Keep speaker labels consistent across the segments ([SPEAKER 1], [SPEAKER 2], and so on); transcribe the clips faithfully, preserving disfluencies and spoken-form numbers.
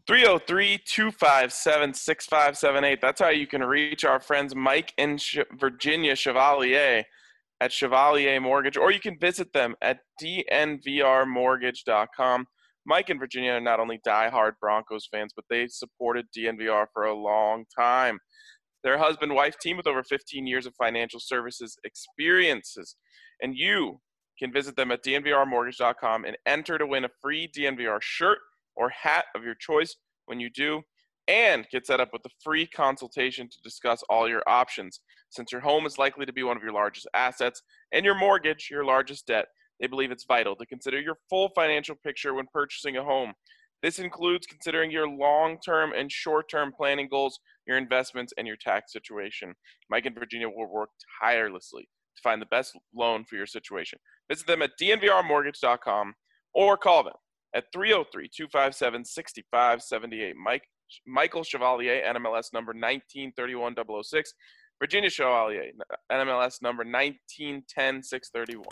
[SPEAKER 1] three oh three, two five seven, six five seven eight. That's how you can reach our friends Mike and Ch- Virginia Chevalier at Chevalier Mortgage, or you can visit them at d n v r mortgage dot com. Mike and Virginia are not only diehard Broncos fans, but they supported D N V R for a long time. They're a husband-wife team with over fifteen years of financial services experiences. And you can visit them at d n v r mortgage dot com and enter to win a free D N V R shirt or hat of your choice when you do, and get set up with a free consultation to discuss all your options. Since your home is likely to be one of your largest assets and your mortgage your largest debt, they believe it's vital to consider your full financial picture when purchasing a home. This includes considering your long-term and short-term planning goals, your investments, and your tax situation. Mike and Virginia will work tirelessly to find the best loan for your situation. Visit them at d n v r mortgage dot com or call them at three oh three, two five seven, six five seven eight. Mike, Michael Chevalier, N M L S number nineteen thirty-one double oh six. Virginia Chevalier, N M L S number nineteen ten six thirty-one.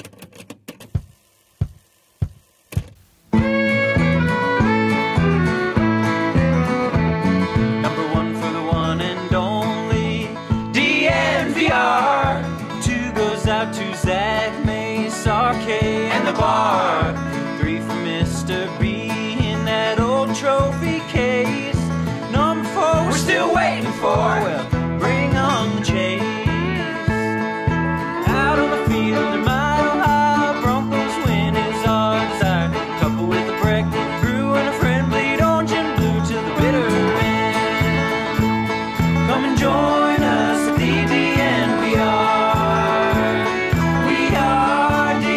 [SPEAKER 2] Number one for the one and only D N V R. Two goes out to Zach Mace, R K, and the bar. Three for Mister B in that old trophy case. Number four we're still waiting for. Well, bring on the chase. Out on the field in Mile High, Broncos win is our desire. Couple with a break, brew and a friend, bleed orange and blue to the bitter end. Come and join us at the D N V R. We are D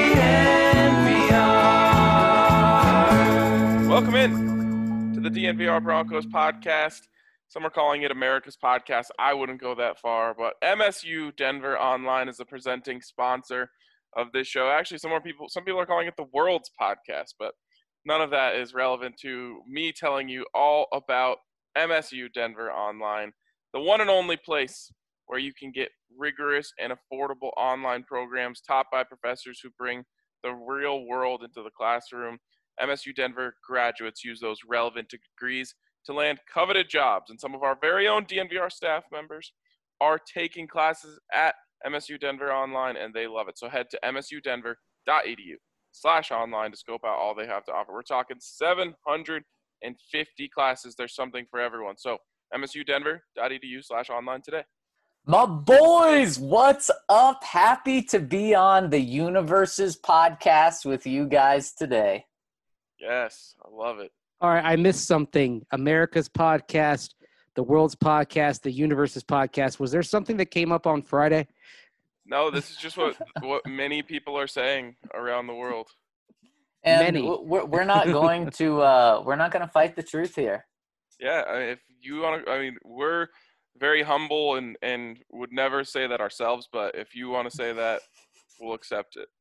[SPEAKER 2] N V R.
[SPEAKER 1] Welcome in to the D N V R Broncos podcast. Some are calling it America's podcast. I wouldn't go that far, but M S U Denver Online is the presenting sponsor of this show. Actually, some more people, some people are calling it the world's podcast, but none of that is relevant to me telling you all about M S U Denver Online, the one and only place where you can get rigorous and affordable online programs taught by professors who bring the real world into the classroom. M S U Denver graduates use those relevant degrees to land coveted jobs, and some of our very own D N V R staff members are taking classes at M S U Denver Online, and they love it. So head to msudenver.edu slash online to scope out all they have to offer. We're talking seven hundred fifty classes. There's something for everyone. So msudenver.edu slash online today.
[SPEAKER 3] My boys, what's up? Happy to be on the Universes podcast with you guys today.
[SPEAKER 1] Yes, I love it.
[SPEAKER 4] All right, I missed something. America's podcast, the world's podcast, the universe's podcast. Was there something that came up on Friday?
[SPEAKER 1] No, this is just what what many people are saying around the world.
[SPEAKER 3] And
[SPEAKER 4] Many.
[SPEAKER 3] we're, we're not going to uh, we're not going to fight the truth here.
[SPEAKER 1] Yeah, I mean, if you want to, I mean, we're very humble and, and would never say that ourselves, but if you want to say that, we'll accept it.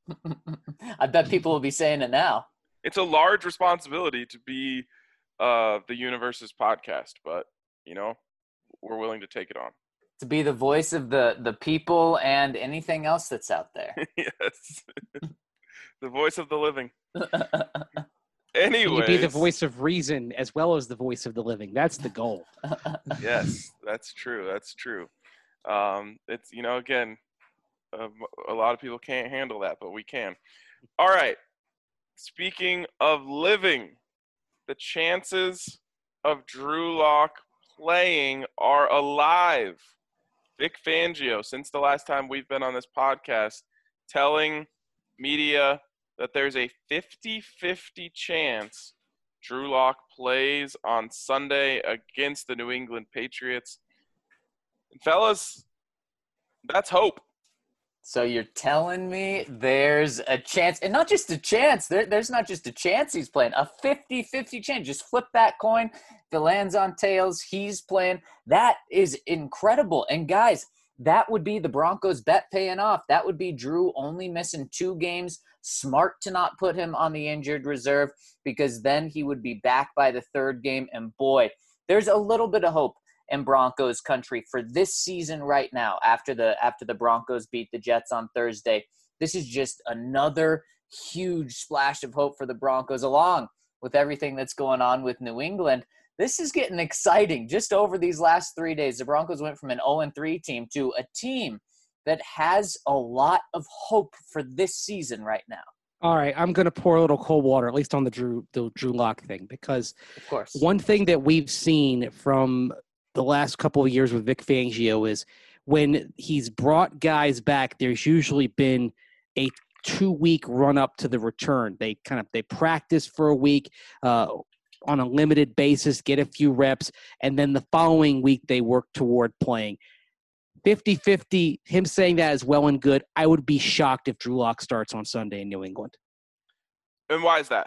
[SPEAKER 3] I bet people will be saying it now.
[SPEAKER 1] It's a large responsibility to be uh, the Universe's podcast, but, you know, we're willing to take it on.
[SPEAKER 3] To be the voice of the, the people and anything else that's out there.
[SPEAKER 1] Yes. The voice of the living.
[SPEAKER 4] Can
[SPEAKER 1] Anyways.
[SPEAKER 4] you be the voice of reason as well as the voice of the living? That's the goal.
[SPEAKER 1] Yes, that's true. That's true. Um, it's, you know, again, uh, a lot of people can't handle that, but we can. All right. Speaking of living, the chances of Drew Lock playing are alive. Vic Fangio, since the last time we've been on this podcast, telling media that there's a fifty-fifty chance Drew Lock plays on Sunday against the New England Patriots. And fellas, that's hope.
[SPEAKER 3] So you're telling me there's a chance, and not just a chance, there, there's not just a chance he's playing, a fifty-fifty chance. Just flip that coin. If it lands on tails, he's playing. That is incredible. And guys, that would be the Broncos bet paying off. That would be Drew only missing two games. Smart to not put him on the injured reserve, because then he would be back by the third game. And boy, there's a little bit of hope in Broncos country for this season right now after the after the Broncos beat the Jets on Thursday. This is just another huge splash of hope for the Broncos, along with everything that's going on with New England. this is getting exciting. Just over these last three days, the Broncos went from an oh and three team to a team that has a lot of hope for this season right now.
[SPEAKER 4] All right, I'm going to pour a little cold water, at least on the Drew the Drew Lock thing, because
[SPEAKER 3] Of course.
[SPEAKER 4] one thing that we've seen from the last couple of years with Vic Fangio is when he's brought guys back, there's usually been a two-week run-up to the return. They kind of they practice for a week uh, on a limited basis, get a few reps, and then the following week they work toward playing. fifty-fifty, him saying that is well and good. I would be shocked if Drew Lock starts on Sunday in New England.
[SPEAKER 1] And why is that?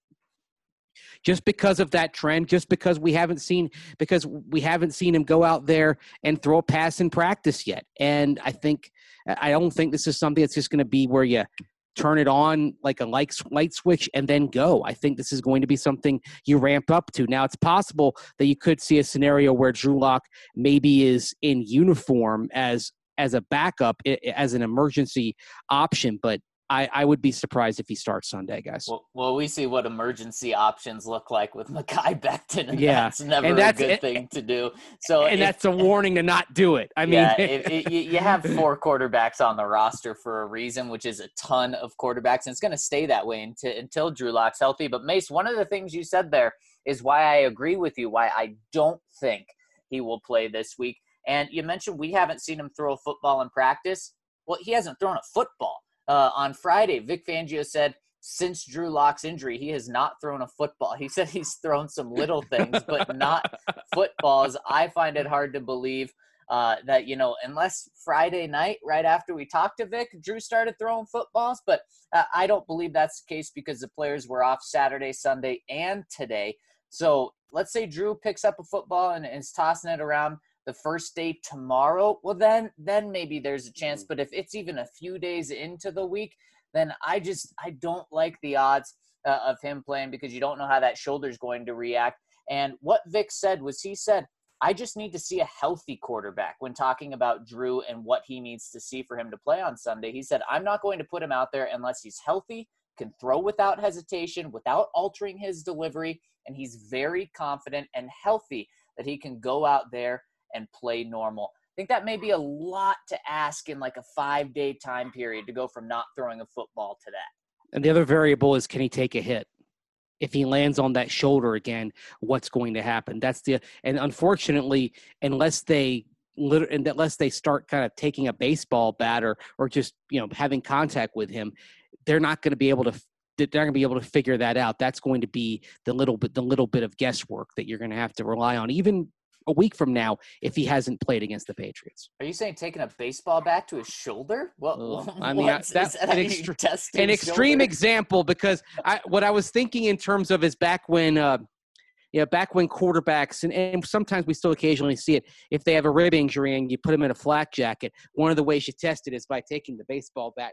[SPEAKER 4] Just because of that trend, just because we haven't seen because we haven't seen him go out there and throw a pass in practice yet. And I think I don't think this is something that's just going to be where you turn it on like a light, light switch and then go. I think this is going to be something you ramp up to. Now, it's possible that you could see a scenario where Drew Lock maybe is in uniform as as a backup, as an emergency option, but I, I would be surprised if he starts Sunday, guys.
[SPEAKER 3] Well, well, we see what emergency options look like with Mekhi Becton, and
[SPEAKER 4] yeah.
[SPEAKER 3] that's never
[SPEAKER 4] and that's,
[SPEAKER 3] a good thing to do. So,
[SPEAKER 4] and
[SPEAKER 3] if,
[SPEAKER 4] that's a warning to not do it. I mean,
[SPEAKER 3] yeah, if, if, you have four quarterbacks on the roster for a reason, which is a ton of quarterbacks, and it's going to stay that way until, until Drew Lock's healthy. But Mace, one of the things you said there is why I agree with you, why I don't think he will play this week. And you mentioned we haven't seen him throw a football in practice. Well, he hasn't thrown a football. Uh, on Friday, Vic Fangio said since Drew Lock's injury, he has not thrown a football. He said he's thrown some little things, but not footballs. I find it hard to believe uh, that, you know, unless Friday night, right after we talked to Vic, Drew started throwing footballs. But uh, I don't believe that's the case because the players were off Saturday, Sunday, and today. So let's say Drew picks up a football and is tossing it around the first day tomorrow, well, then then maybe there's a chance. But if it's even a few days into the week, then I just I don't like the odds uh, of him playing because you don't know how that shoulder is going to react. And what Vic said was he said, I just need to see a healthy quarterback when talking about Drew and what he needs to see for him to play on Sunday. He said, I'm not going to put him out there unless he's healthy, can throw without hesitation, without altering his delivery, and he's very confident and healthy that he can go out there and play normal. I think that may be a lot to ask in like a five-day time period to go from not throwing a football to that.
[SPEAKER 4] And the other variable is, can he take a hit? If he lands on that shoulder again, what's going to happen? That's the and unfortunately, unless they unless they start kind of taking a baseball bat or or just you know having contact with him, they're not going to be able to. They're not going to be able to figure that out. That's going to be the little bit the little bit of guesswork that you're going to have to rely on, even a week from now, if he hasn't played against the Patriots.
[SPEAKER 3] Are you saying taking a baseball bat to his shoulder? What?
[SPEAKER 4] Well, I mean, that's that
[SPEAKER 3] that
[SPEAKER 4] an, extre- an extreme
[SPEAKER 3] shoulder?
[SPEAKER 4] example because I, what I was thinking in terms of is back when, uh, yeah, back when quarterbacks, and, and sometimes we still occasionally see it, if they have a rib injury and you put them in a flak jacket, one of the ways you test it is by taking the baseball bat,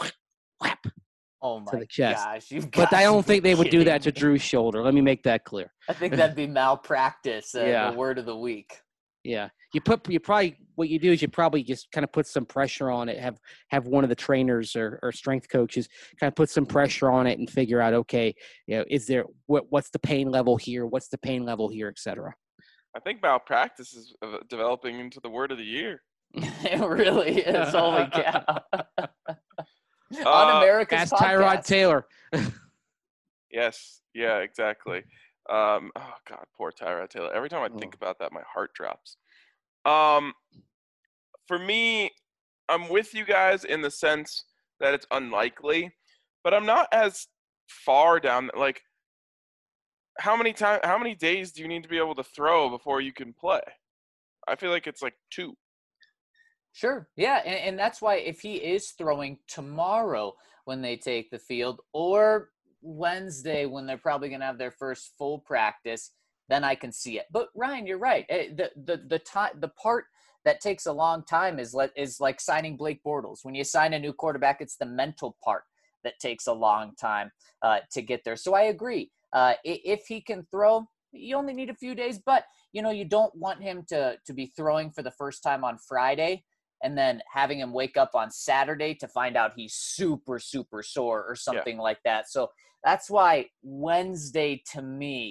[SPEAKER 4] whap,
[SPEAKER 3] Oh my
[SPEAKER 4] to the chest.
[SPEAKER 3] gosh! You've
[SPEAKER 4] But I don't think they would do that to
[SPEAKER 3] me.
[SPEAKER 4] Drew's shoulder. Let me make that clear.
[SPEAKER 3] I think that'd be malpractice. Uh,
[SPEAKER 4] Yeah.
[SPEAKER 3] The word of the week.
[SPEAKER 4] Yeah, you put you probably what you do is you probably just kind of put some pressure on it. Have have one of the trainers or, or strength coaches kind of put some pressure on it and figure out, okay, you know, is there what what's the pain level here? What's the pain level here, et cetera.
[SPEAKER 1] I think malpractice is uh, developing into the word of the year.
[SPEAKER 3] It really is. Holy cow!
[SPEAKER 1] Uh,
[SPEAKER 3] On America's
[SPEAKER 4] Ask
[SPEAKER 3] podcast.
[SPEAKER 4] Tyrod Taylor.
[SPEAKER 1] Yes. Yeah, exactly. Um, oh, God, poor Tyrod Taylor. Every time I think
[SPEAKER 4] Oh.
[SPEAKER 1] about that, my heart drops. Um, for me, I'm with you guys in the sense that it's unlikely, but I'm not as far down. Like, how many time, how many days do you need to be able to throw before you can play? I feel like it's like two.
[SPEAKER 3] Sure. Yeah. And, and that's why if he is throwing tomorrow when they take the field or Wednesday when they're probably going to have their first full practice, then I can see it. But Ryan, you're right. Eh, The the the time the part that takes a long time is let is like signing Blake Bortles. When you sign a new quarterback, it's the mental part that takes a long time uh, to get there. So I agree. Uh, i- if he can throw, you only need a few days, but you know you don't want him to to be throwing for the first time on Friday and then having him wake up on Saturday to find out he's super, super sore or something like that. So that's why Wednesday to me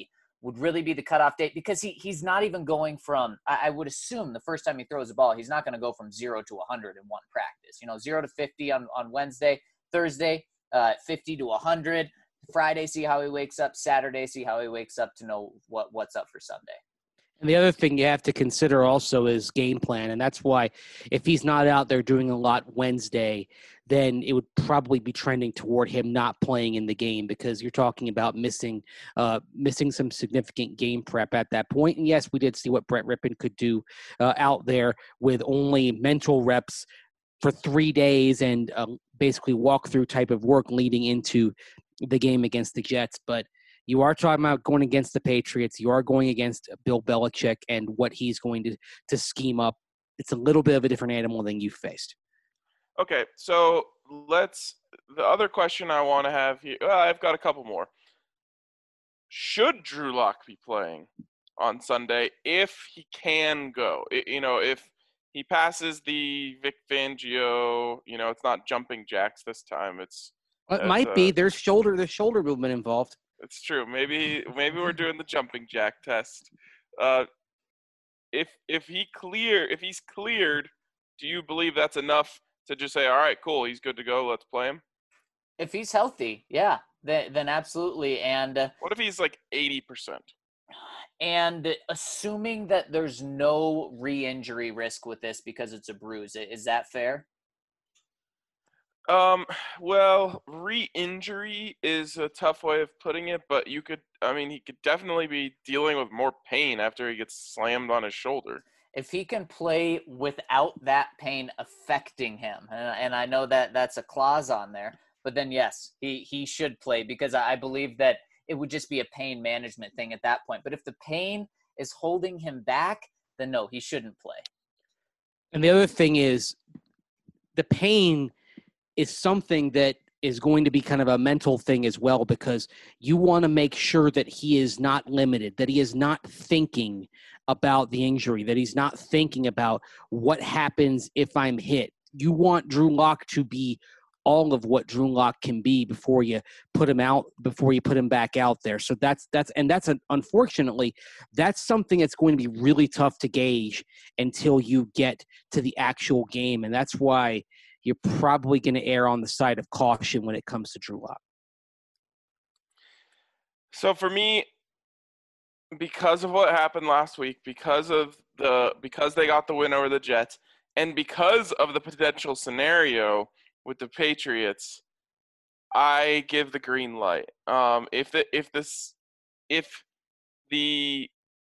[SPEAKER 3] would really be the cutoff date, because he he's not even going from, I, I would assume the first time he throws the ball, he's not going to go from zero to one hundred in one practice. You know, zero to fifty on, on Wednesday, Thursday, uh, fifty to one hundred, Friday, see how he wakes up, Saturday, see how he wakes up to know what what's up for Sunday.
[SPEAKER 4] And the other thing you have to consider also is game plan. And that's why if he's not out there doing a lot Wednesday, then it would probably be trending toward him not playing in the game, because you're talking about missing uh, missing some significant game prep at that point. And yes, we did see what Brett Rippon could do uh, out there with only mental reps for three days and um, basically walkthrough type of work leading into the game against the Jets. But you are talking about going against the Patriots. You are going against Bill Belichick and what he's going to, to scheme up. It's a little bit of a different animal than you've faced.
[SPEAKER 1] Okay, so let's – the other question I want to have here – well, I've got a couple more. Should Drew Lock be playing on Sunday if he can go? It, you know, if he passes the Vic Fangio, you know, it's not jumping jacks this time. It's
[SPEAKER 4] It might
[SPEAKER 1] uh,
[SPEAKER 4] be. There's shoulder, there's shoulder movement involved.
[SPEAKER 1] It's true. Maybe maybe we're doing the jumping jack test. Uh, if if he clear if he's cleared, do you believe that's enough to just say, all right, cool, he's good to go, let's play him?
[SPEAKER 3] If he's healthy, yeah, then, then absolutely. And uh,
[SPEAKER 1] what if he's like eighty percent?
[SPEAKER 3] And assuming that there's no re-injury risk with this because it's a bruise, is that fair?
[SPEAKER 1] Um, well, re-injury is a tough way of putting it, but you could, I mean, he could definitely be dealing with more pain after he gets slammed on his shoulder.
[SPEAKER 3] If he can play without that pain affecting him, and I know that that's a clause on there, but then yes, he, he should play, because I believe that it would just be a pain management thing at that point. But if the pain is holding him back, then no, he shouldn't play.
[SPEAKER 4] And the other thing is the pain is something that is going to be kind of a mental thing as well, because you want to make sure that he is not limited, that he is not thinking about the injury, that he's not thinking about what happens if I'm hit. You want Drew Lock to be all of what Drew Lock can be before you put him out, before you put him back out there. So that's, that's, and that's, an, unfortunately, that's something that's going to be really tough to gauge until you get to the actual game. And that's why you're probably going to err on the side of caution when it comes to Drew Lock.
[SPEAKER 1] So for me, because of what happened last week, because of the because they got the win over the Jets, and because of the potential scenario with the Patriots, I give the green light. Um, if the if this if the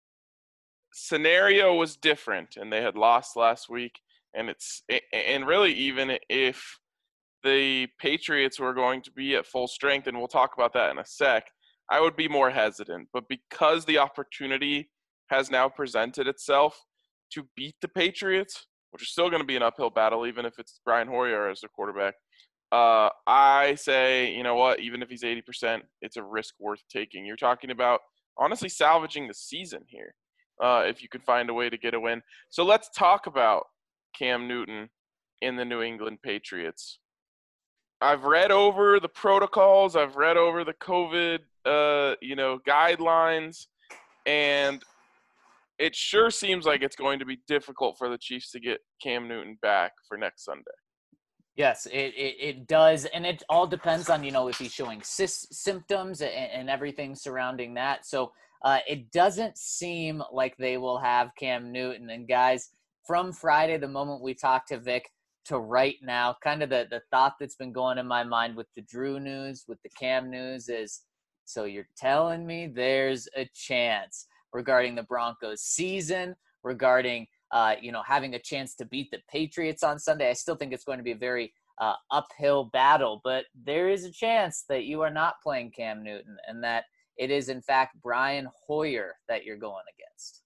[SPEAKER 1] scenario was different and they had lost last week, and it's and really even if the Patriots were going to be at full strength, and we'll talk about that in a sec, I would be more hesitant. But because the opportunity has now presented itself to beat the Patriots, which is still going to be an uphill battle, even if it's Brian Hoyer as the quarterback, uh, I say, you know what, even if he's eighty percent, it's a risk worth taking. You're talking about, honestly, salvaging the season here uh, if you could find a way to get a win. So let's talk about Cam Newton in the New England Patriots. I've read over the protocols. I've read over the COVID, uh, you know, guidelines, and it sure seems like it's going to be difficult for the Chiefs to get Cam Newton back for next Sunday.
[SPEAKER 3] Yes, it, it, it does, and it all depends on, you know, if he's showing sy- symptoms and, and everything surrounding that. So uh, it doesn't seem like they will have Cam Newton. And guys, from Friday, the moment we talked to Vic, to right now, kind of the, the thought that's been going in my mind with the Drew news, with the Cam news is, so you're telling me there's a chance regarding the Broncos season, regarding, uh, you know, having a chance to beat the Patriots on Sunday. I still think it's going to be a very uh, uphill battle, but there is a chance that you are not playing Cam Newton and that it is, in fact, Brian Hoyer that you're going against.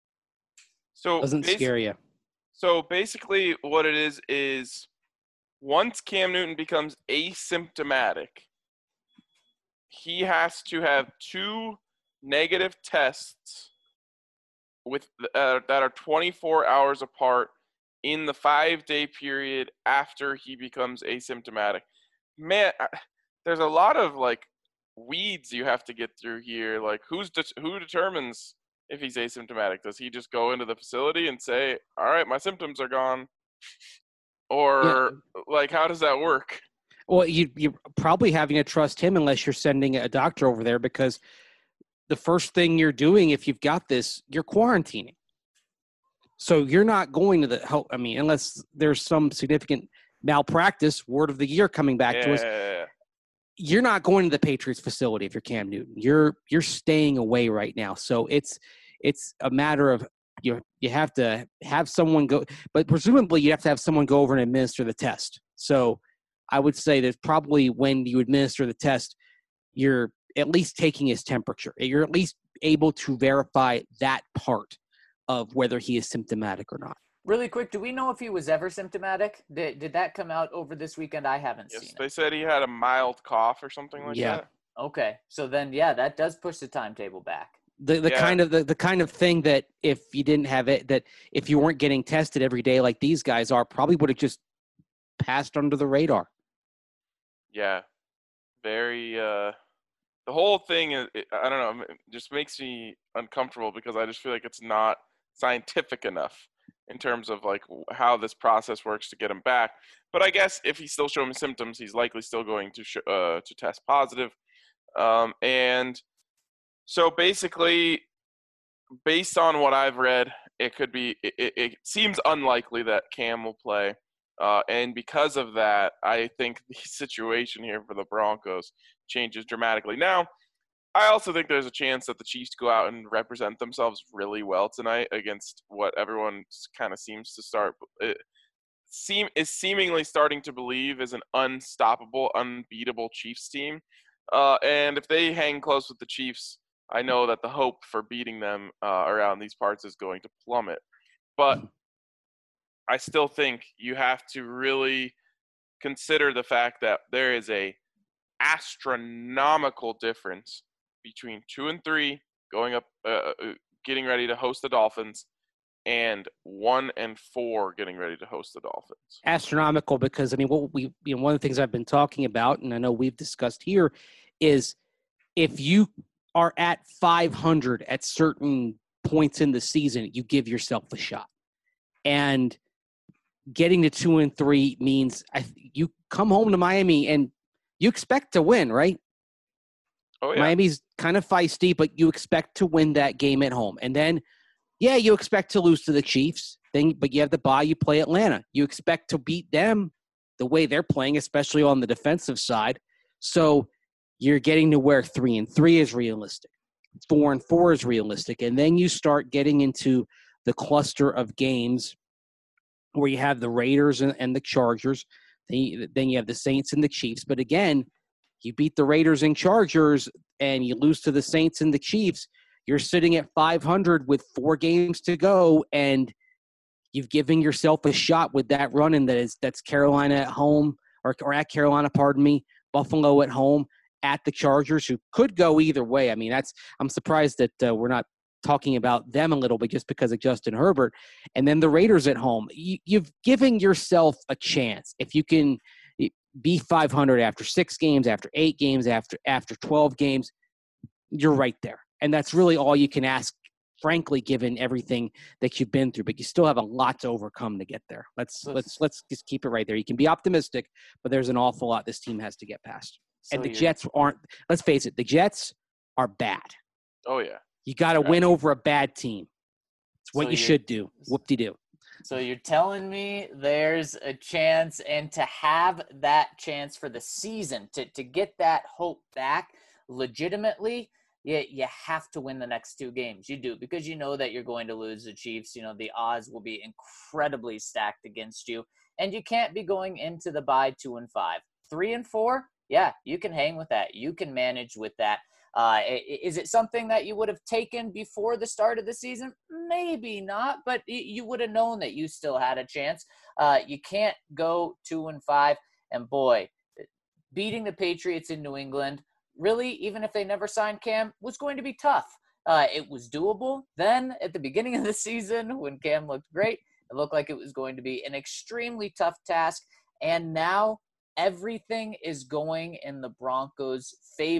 [SPEAKER 1] So
[SPEAKER 4] Doesn't scare you.
[SPEAKER 1] So basically what it is is once Cam Newton becomes asymptomatic, he has to have two negative tests with uh, that are twenty-four hours apart in the five-day period after he becomes asymptomatic. Man, there's a lot of like weeds you have to get through here. Like, who's de- who determines if he's asymptomatic? Does he just go into the facility and say, all right, my symptoms are gone? Or, yeah. like, how does that work?
[SPEAKER 4] Well, you, you're probably having to trust him unless you're sending a doctor over there, because the first thing you're doing if you've got this, you're quarantining. So you're not going to the help. I mean, unless there's some significant malpractice, word of the year coming back
[SPEAKER 1] yeah.
[SPEAKER 4] to us. You're not going to the Patriots facility if you're Cam Newton. You're you're staying away right now. So it's it's a matter of you you have to have someone go, but presumably you have to have someone go over and administer the test. So I would say that probably when you administer the test, you're at least taking his temperature. You're at least able to verify that part of whether he is symptomatic or not.
[SPEAKER 3] Really quick, do we know if he was ever symptomatic? Did did that come out over this weekend? I haven't
[SPEAKER 1] yes,
[SPEAKER 3] seen it.
[SPEAKER 1] They said he had a mild cough or something like
[SPEAKER 4] yeah.
[SPEAKER 1] that.
[SPEAKER 3] Okay, so then yeah, that does push the timetable back.
[SPEAKER 4] The the
[SPEAKER 1] yeah.
[SPEAKER 4] kind of the, the kind of thing that if you didn't have it, that if you weren't getting tested every day like these guys are, probably would have just passed under the radar.
[SPEAKER 1] Yeah, very. Uh, the whole thing is, I don't know, it just makes me uncomfortable because I just feel like it's not scientific enough in terms of like how this process works to get him back. But I guess if he's still showing symptoms, he's likely still going to sh- uh, to test positive. Um, and so basically, based on what I've read, it could be. It, it, it seems unlikely that Cam will play, uh, and because of that, I think the situation here for the Broncos changes dramatically. Now, I also think there's a chance that the Chiefs go out and represent themselves really well tonight against what everyone kind of seems to start it seem is seemingly starting to believe is an unstoppable, unbeatable Chiefs team. Uh, and if they hang close with the Chiefs, I know that the hope for beating them uh, around these parts is going to plummet. But I still think you have to really consider the fact that there is a astronomical difference between two and three going up, uh, getting ready to host the Dolphins, and one and four getting ready to host the Dolphins.
[SPEAKER 4] Astronomical, because I mean, what we you know, one of the things I've been talking about, and I know we've discussed here, is if you are at five hundred at certain points in the season, you give yourself a shot, and getting to two and three means I, you come home to Miami and you expect to win, right?
[SPEAKER 1] Oh, yeah.
[SPEAKER 4] Miami's kind of feisty, but you expect to win that game at home. And then, yeah, you expect to lose to the Chiefs, then, but you have the bye, you play Atlanta. You expect to beat them the way they're playing, especially on the defensive side. So you're getting to where three and three is realistic. Four and four is realistic. And then you start getting into the cluster of games where you have the Raiders and, and the Chargers. Then you, then you have the Saints and the Chiefs. But again, you beat the Raiders and Chargers and you lose to the Saints and the Chiefs. You're sitting at five hundred with four games to go, and you've given yourself a shot with that run in that is that's Carolina at home or, or at Carolina, pardon me, Buffalo at home, at the Chargers, who could go either way. I mean, that's I'm surprised that uh, we're not talking about them a little bit just because of Justin Herbert. And then the Raiders at home. You, you've given yourself a chance. If you can be five hundred after six games, after eight games, after after twelve games, you're right there. And that's really all you can ask, frankly, given everything that you've been through. But you still have a lot to overcome to get there. Let's let's let's just keep it right there. You can be optimistic, but there's an awful lot this team has to get past. So and the Jets aren't, let's face it, the Jets are bad.
[SPEAKER 1] Oh, yeah.
[SPEAKER 4] You got to win over a bad team. It's what
[SPEAKER 3] so
[SPEAKER 4] you should do. Whoop-de-doo.
[SPEAKER 3] So you're telling me there's a chance, and to have that chance for the season, to, to get that hope back legitimately, you, you have to win the next two games. You do, because you know that you're going to lose the Chiefs. You know, the odds will be incredibly stacked against you, and you can't be going into the bye two and five. Three and four, yeah, you can hang with that. You can manage with that. Uh, is it something that you would have taken before the start of the season? Maybe not, but you would have known that you still had a chance. Uh, you can't go two and five, and boy, beating the Patriots in New England, really, even if they never signed Cam, was going to be tough. Uh, it was doable. Then at the beginning of the season, when Cam looked great, it looked like it was going to be an extremely tough task. And now everything is going in the Broncos' favor.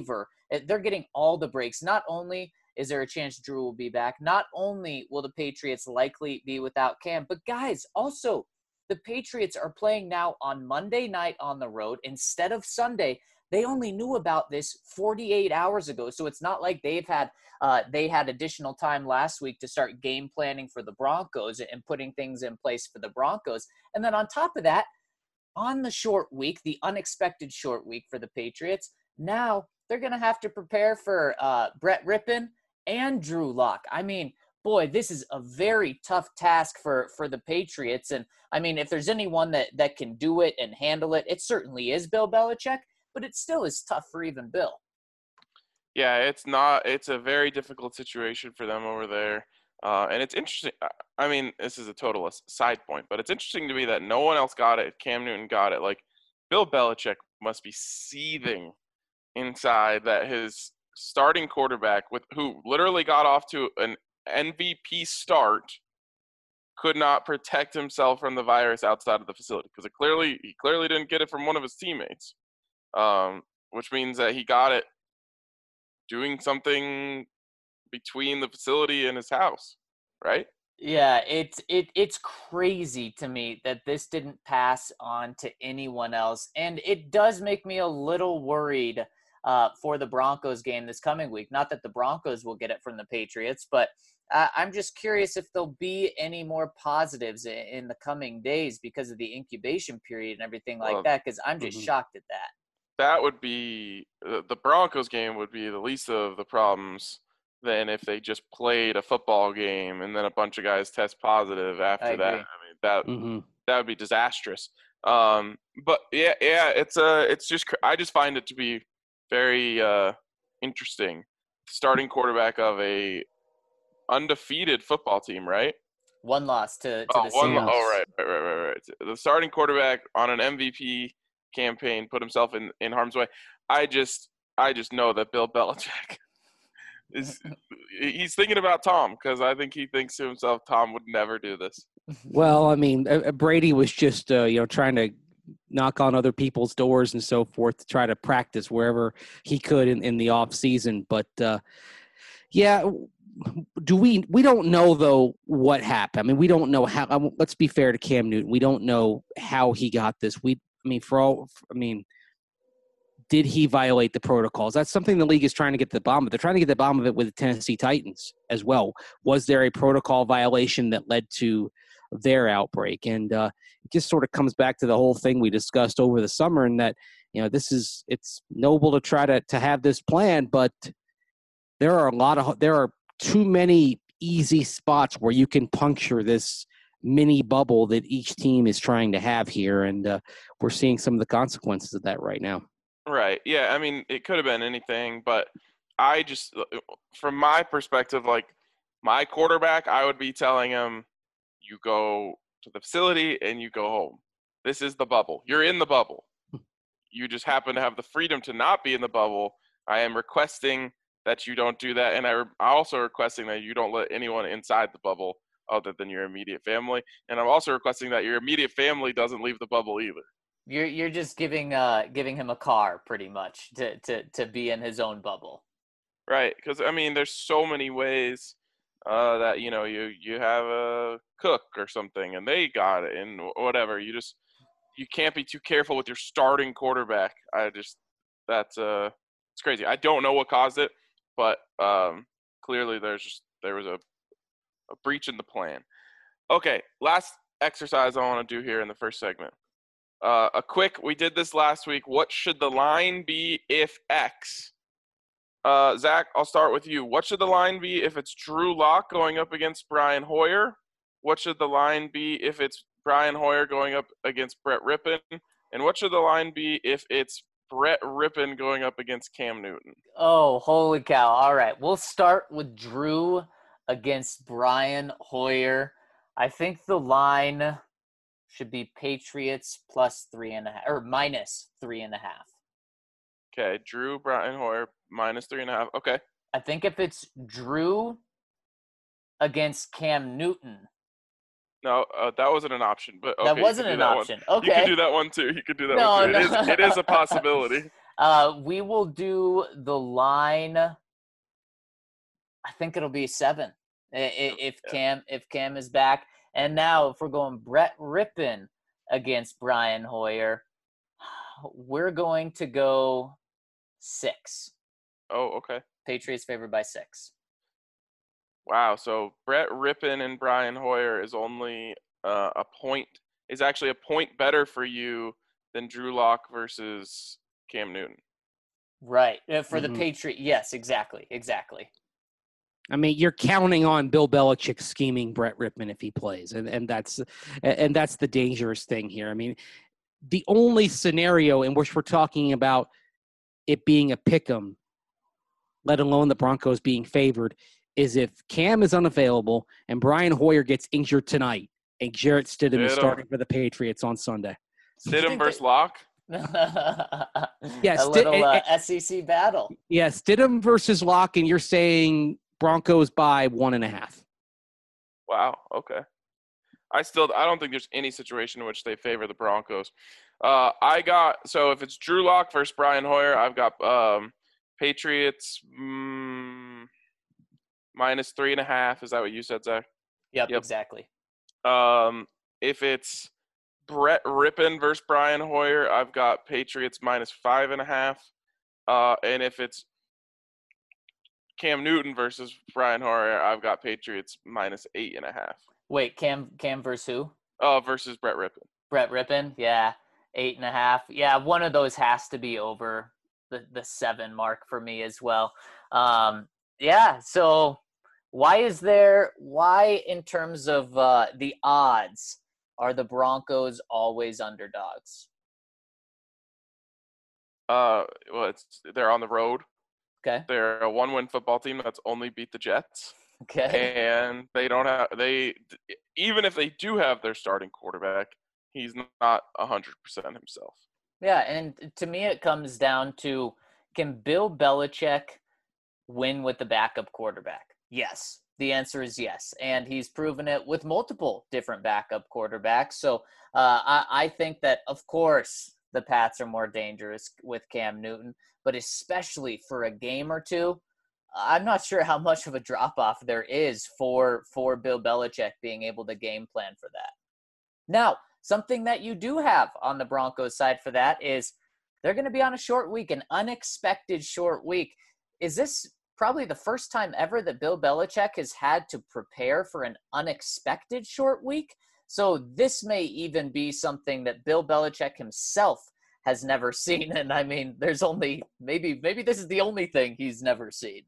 [SPEAKER 3] They're getting all the breaks. Not only is there a chance Drew will be back, not only will the Patriots likely be without Cam, but guys, also the Patriots are playing now on Monday night on the road instead of Sunday. They only knew about this forty-eight hours ago, so it's not like they've had uh, they had additional time last week to start game planning for the Broncos and putting things in place for the Broncos. And then on top of that, on the short week, the unexpected short week for the Patriots, now they're going to have to prepare for uh, Brett Rippon and Drew Lock. I mean, boy, this is a very tough task for, for the Patriots. And I mean, if there's anyone that, that can do it and handle it, it certainly is Bill Belichick, but it still is tough for even Bill.
[SPEAKER 1] Yeah, it's not, it's a very difficult situation for them over there. Uh, and it's interesting. I mean, this is a total side point, but it's interesting to me that no one else got it. Cam Newton got it. Like, Bill Belichick must be seething inside that his starting quarterback, with who literally got off to an M V P start, could not protect himself from the virus outside of the facility, because it clearly he clearly didn't get it from one of his teammates, um, which means that he got it doing something between the facility and his house, right?
[SPEAKER 3] Yeah, it's it it's crazy to me that this didn't pass on to anyone else, and it does make me a little worried uh, for the Broncos game this coming week. Not that the Broncos will get it from the Patriots, but uh, I'm just curious if there'll be any more positives in, in the coming days because of the incubation period and everything like
[SPEAKER 1] Well,
[SPEAKER 3] that. Because I'm just
[SPEAKER 4] mhm.
[SPEAKER 3] shocked at that.
[SPEAKER 1] That would be uh, the Broncos game would be the least of the problems than if they just played a football game and then a bunch of guys test positive after
[SPEAKER 3] I
[SPEAKER 1] that. I
[SPEAKER 3] agree.
[SPEAKER 1] mean, that
[SPEAKER 4] Mhm.
[SPEAKER 1] that would be disastrous. Um, but yeah, yeah, it's uh, it's just cr- I just find it to be very uh, interesting. Starting quarterback of a undefeated football team, right?
[SPEAKER 3] One loss to to
[SPEAKER 1] Oh,
[SPEAKER 3] the
[SPEAKER 1] one.
[SPEAKER 3] Seahawks.
[SPEAKER 1] Oh, right, right, right, right, right. The starting quarterback on an M V P campaign put himself in, in harm's way. I just I just know that Bill Belichick is he's thinking about Tom, because I think he thinks to himself, Tom would never do this.
[SPEAKER 4] Well, I mean, uh, uh, Brady was just uh, you know trying to knock on other people's doors and so forth to try to practice wherever he could in, in the off season. But uh, yeah, do we? We don't know though what happened. I mean, we don't know how. Um, let's be fair to Cam Newton. We don't know how he got this. We, I mean, for all, I mean. Did he violate the protocols? That's something the league is trying to get to the bottom of. They're trying to get to the bottom of it with the Tennessee Titans as well. Was there a protocol violation that led to their outbreak? And uh, it just sort of comes back to the whole thing we discussed over the summer, and that, you know, this is, it's noble to try to, to have this plan, but there are a lot of, there are too many easy spots where you can puncture this mini bubble that each team is trying to have here. And uh, we're seeing some of the consequences of that right now.
[SPEAKER 1] Right. Yeah. I mean, it could have been anything, but I just, from my perspective, like my quarterback, I would be telling him, you go to the facility and you go home. This is the bubble. You're in the bubble. You just happen to have the freedom to not be in the bubble. I am requesting that you don't do that. And I, I'm also requesting that you don't let anyone inside the bubble other than your immediate family. And I'm also requesting that your immediate family doesn't leave the bubble either.
[SPEAKER 3] You're you're just giving uh giving him a car pretty much to to to be in his own bubble.
[SPEAKER 1] Right, because I mean, there's so many ways uh, that you know you you have a cook or something, and they got it, and whatever. You just you can't be too careful with your starting quarterback. I just that's uh it's crazy. I don't know what caused it, but um, clearly there's just there was a a breach in the plan. Okay, last exercise I want to do here in the first segment. Uh, a quick. We did this last week. What should the line be if X? Uh, Zach, I'll start with you. What should the line be if it's Drew Lock going up against Brian Hoyer? What should the line be if it's Brian Hoyer going up against Brett Rippon? And what should the line be if it's Brett Rippon going up against Cam Newton?
[SPEAKER 3] Oh, holy cow. All right. We'll start with Drew against Brian Hoyer. I think the line should be Patriots plus three and a half, or minus three and a half.
[SPEAKER 1] Okay, Drew, Brian Hoyer, minus three and a half. Okay.
[SPEAKER 3] I think if it's Drew against Cam Newton.
[SPEAKER 1] No, uh, that wasn't an option, but okay,
[SPEAKER 3] that wasn't an
[SPEAKER 1] that
[SPEAKER 3] option.
[SPEAKER 1] One.
[SPEAKER 3] Okay.
[SPEAKER 1] You could do that one too. You could do that
[SPEAKER 3] no,
[SPEAKER 1] one too.
[SPEAKER 3] No.
[SPEAKER 1] It is, it is a possibility.
[SPEAKER 3] Uh, we will do the line. I think it'll be seven i- i- if
[SPEAKER 1] Yeah.
[SPEAKER 3] Cam if Cam is back. And now, if we're going Brett Rippon against Brian Hoyer, we're going to go six.
[SPEAKER 1] Oh, okay.
[SPEAKER 3] Patriots favored by six.
[SPEAKER 1] Wow. So Brett Rippon and Brian Hoyer is only uh, a point. Is actually a point better for you than Drew Lock versus Cam Newton.
[SPEAKER 3] Right. Uh, For the
[SPEAKER 4] Mhm.
[SPEAKER 3] Patriot. Yes, exactly. Exactly.
[SPEAKER 4] I mean, you're counting on Bill Belichick scheming Brett Rippon if he plays, and and that's and that's the dangerous thing here. I mean, the only scenario in which we're talking about it being a pick'em, let alone the Broncos being favored, is if Cam is unavailable and Brian Hoyer gets injured tonight, and Jarrett Stidham is
[SPEAKER 1] Stidham.
[SPEAKER 4] starting for the Patriots on Sunday.
[SPEAKER 1] Stidham
[SPEAKER 3] think
[SPEAKER 1] versus
[SPEAKER 3] that-
[SPEAKER 1] Lock.
[SPEAKER 3] a
[SPEAKER 4] Sti-
[SPEAKER 3] little
[SPEAKER 4] eh,
[SPEAKER 3] uh,
[SPEAKER 4] eh,
[SPEAKER 3] S E C battle.
[SPEAKER 4] Yeah, Stidham versus Locke, and you're saying Broncos by one and a half.
[SPEAKER 1] Wow. Okay. I still I don't think there's any situation in which they favor the Broncos. Uh, I got so if it's Drew Lock versus Brian Hoyer, I've got um, Patriots mm, minus three and a half. Is that what you said, Zach?
[SPEAKER 3] Yep,
[SPEAKER 1] Yep.
[SPEAKER 3] exactly.
[SPEAKER 1] Um, if it's Brett Rippon versus Brian Hoyer, I've got Patriots minus five and a half. Uh, and if it's Cam Newton versus Brian Hoyer, I've got Patriots minus eight and a half.
[SPEAKER 3] Wait, Cam Cam versus who?
[SPEAKER 1] Uh, versus Brett Rippon.
[SPEAKER 3] Brett Rippon. Yeah, eight and a half. Yeah, one of those has to be over the the seven mark for me as well. Um, yeah. So why is there? Why in terms of uh, the odds are the Broncos always underdogs?
[SPEAKER 1] Uh, well, it's they're on the road.
[SPEAKER 3] Okay.
[SPEAKER 1] They're a one-win football team that's only beat the Jets,
[SPEAKER 3] Okay.
[SPEAKER 1] and they don't have they even if they do have their starting quarterback, he's not a hundred percent himself.
[SPEAKER 3] Yeah, and to me, it comes down to can Bill Belichick win with the backup quarterback? Yes. The answer is yes. And he's proven it with multiple different backup quarterbacks. So uh, I, I think that, of course, the Pats are more dangerous with Cam Newton, but especially for a game or two, I'm not sure how much of a drop-off there is for, for Bill Belichick being able to game plan for that. Now, something that you do have on the Broncos side for that is they're going to be on a short week, an unexpected short week. Is this probably the first time ever that Bill Belichick has had to prepare for an unexpected short week? So this may even be something that Bill Belichick himself has never seen. And I mean, there's only maybe maybe this is the only thing he's never seen.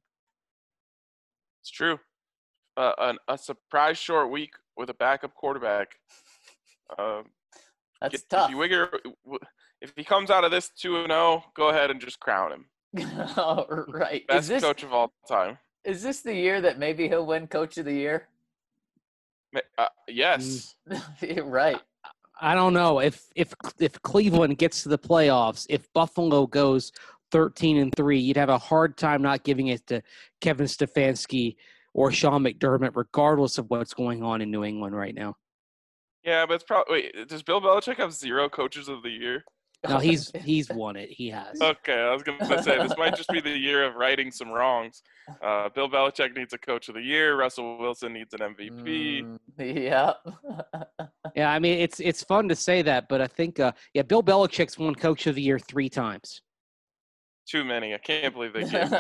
[SPEAKER 1] It's true. Uh, an, a surprise short week with a backup quarterback. Um,
[SPEAKER 3] That's
[SPEAKER 1] If
[SPEAKER 3] tough.
[SPEAKER 1] you wigger, if he comes out of this two and zero, go ahead and just crown him
[SPEAKER 3] Right.
[SPEAKER 1] best
[SPEAKER 3] Is this
[SPEAKER 1] coach of all time.
[SPEAKER 3] is this the year that maybe he'll win Coach of the Year?
[SPEAKER 1] Ma- Uh, yes,
[SPEAKER 3] Right.
[SPEAKER 4] I don't know if if if Cleveland gets to the playoffs, if Buffalo goes thirteen and three, you'd have a hard time not giving it to Kevin Stefanski or Sean McDermott, regardless of what's going on in New England right now.
[SPEAKER 1] yeah, but it's probably. Wait, does Bill Belichick have zero coaches of the year?
[SPEAKER 4] No, he's he's won it. He has.
[SPEAKER 1] Okay, I was gonna say this might just be the year of righting some wrongs. Uh, Bill Belichick needs a coach of the year. Russell Wilson needs an M V P.
[SPEAKER 3] Mm, yeah.
[SPEAKER 4] Yeah, I mean it's it's fun to say that, but I think uh, yeah, Bill Belichick's won Coach of the Year three times.
[SPEAKER 1] Too many. I can't believe they gave him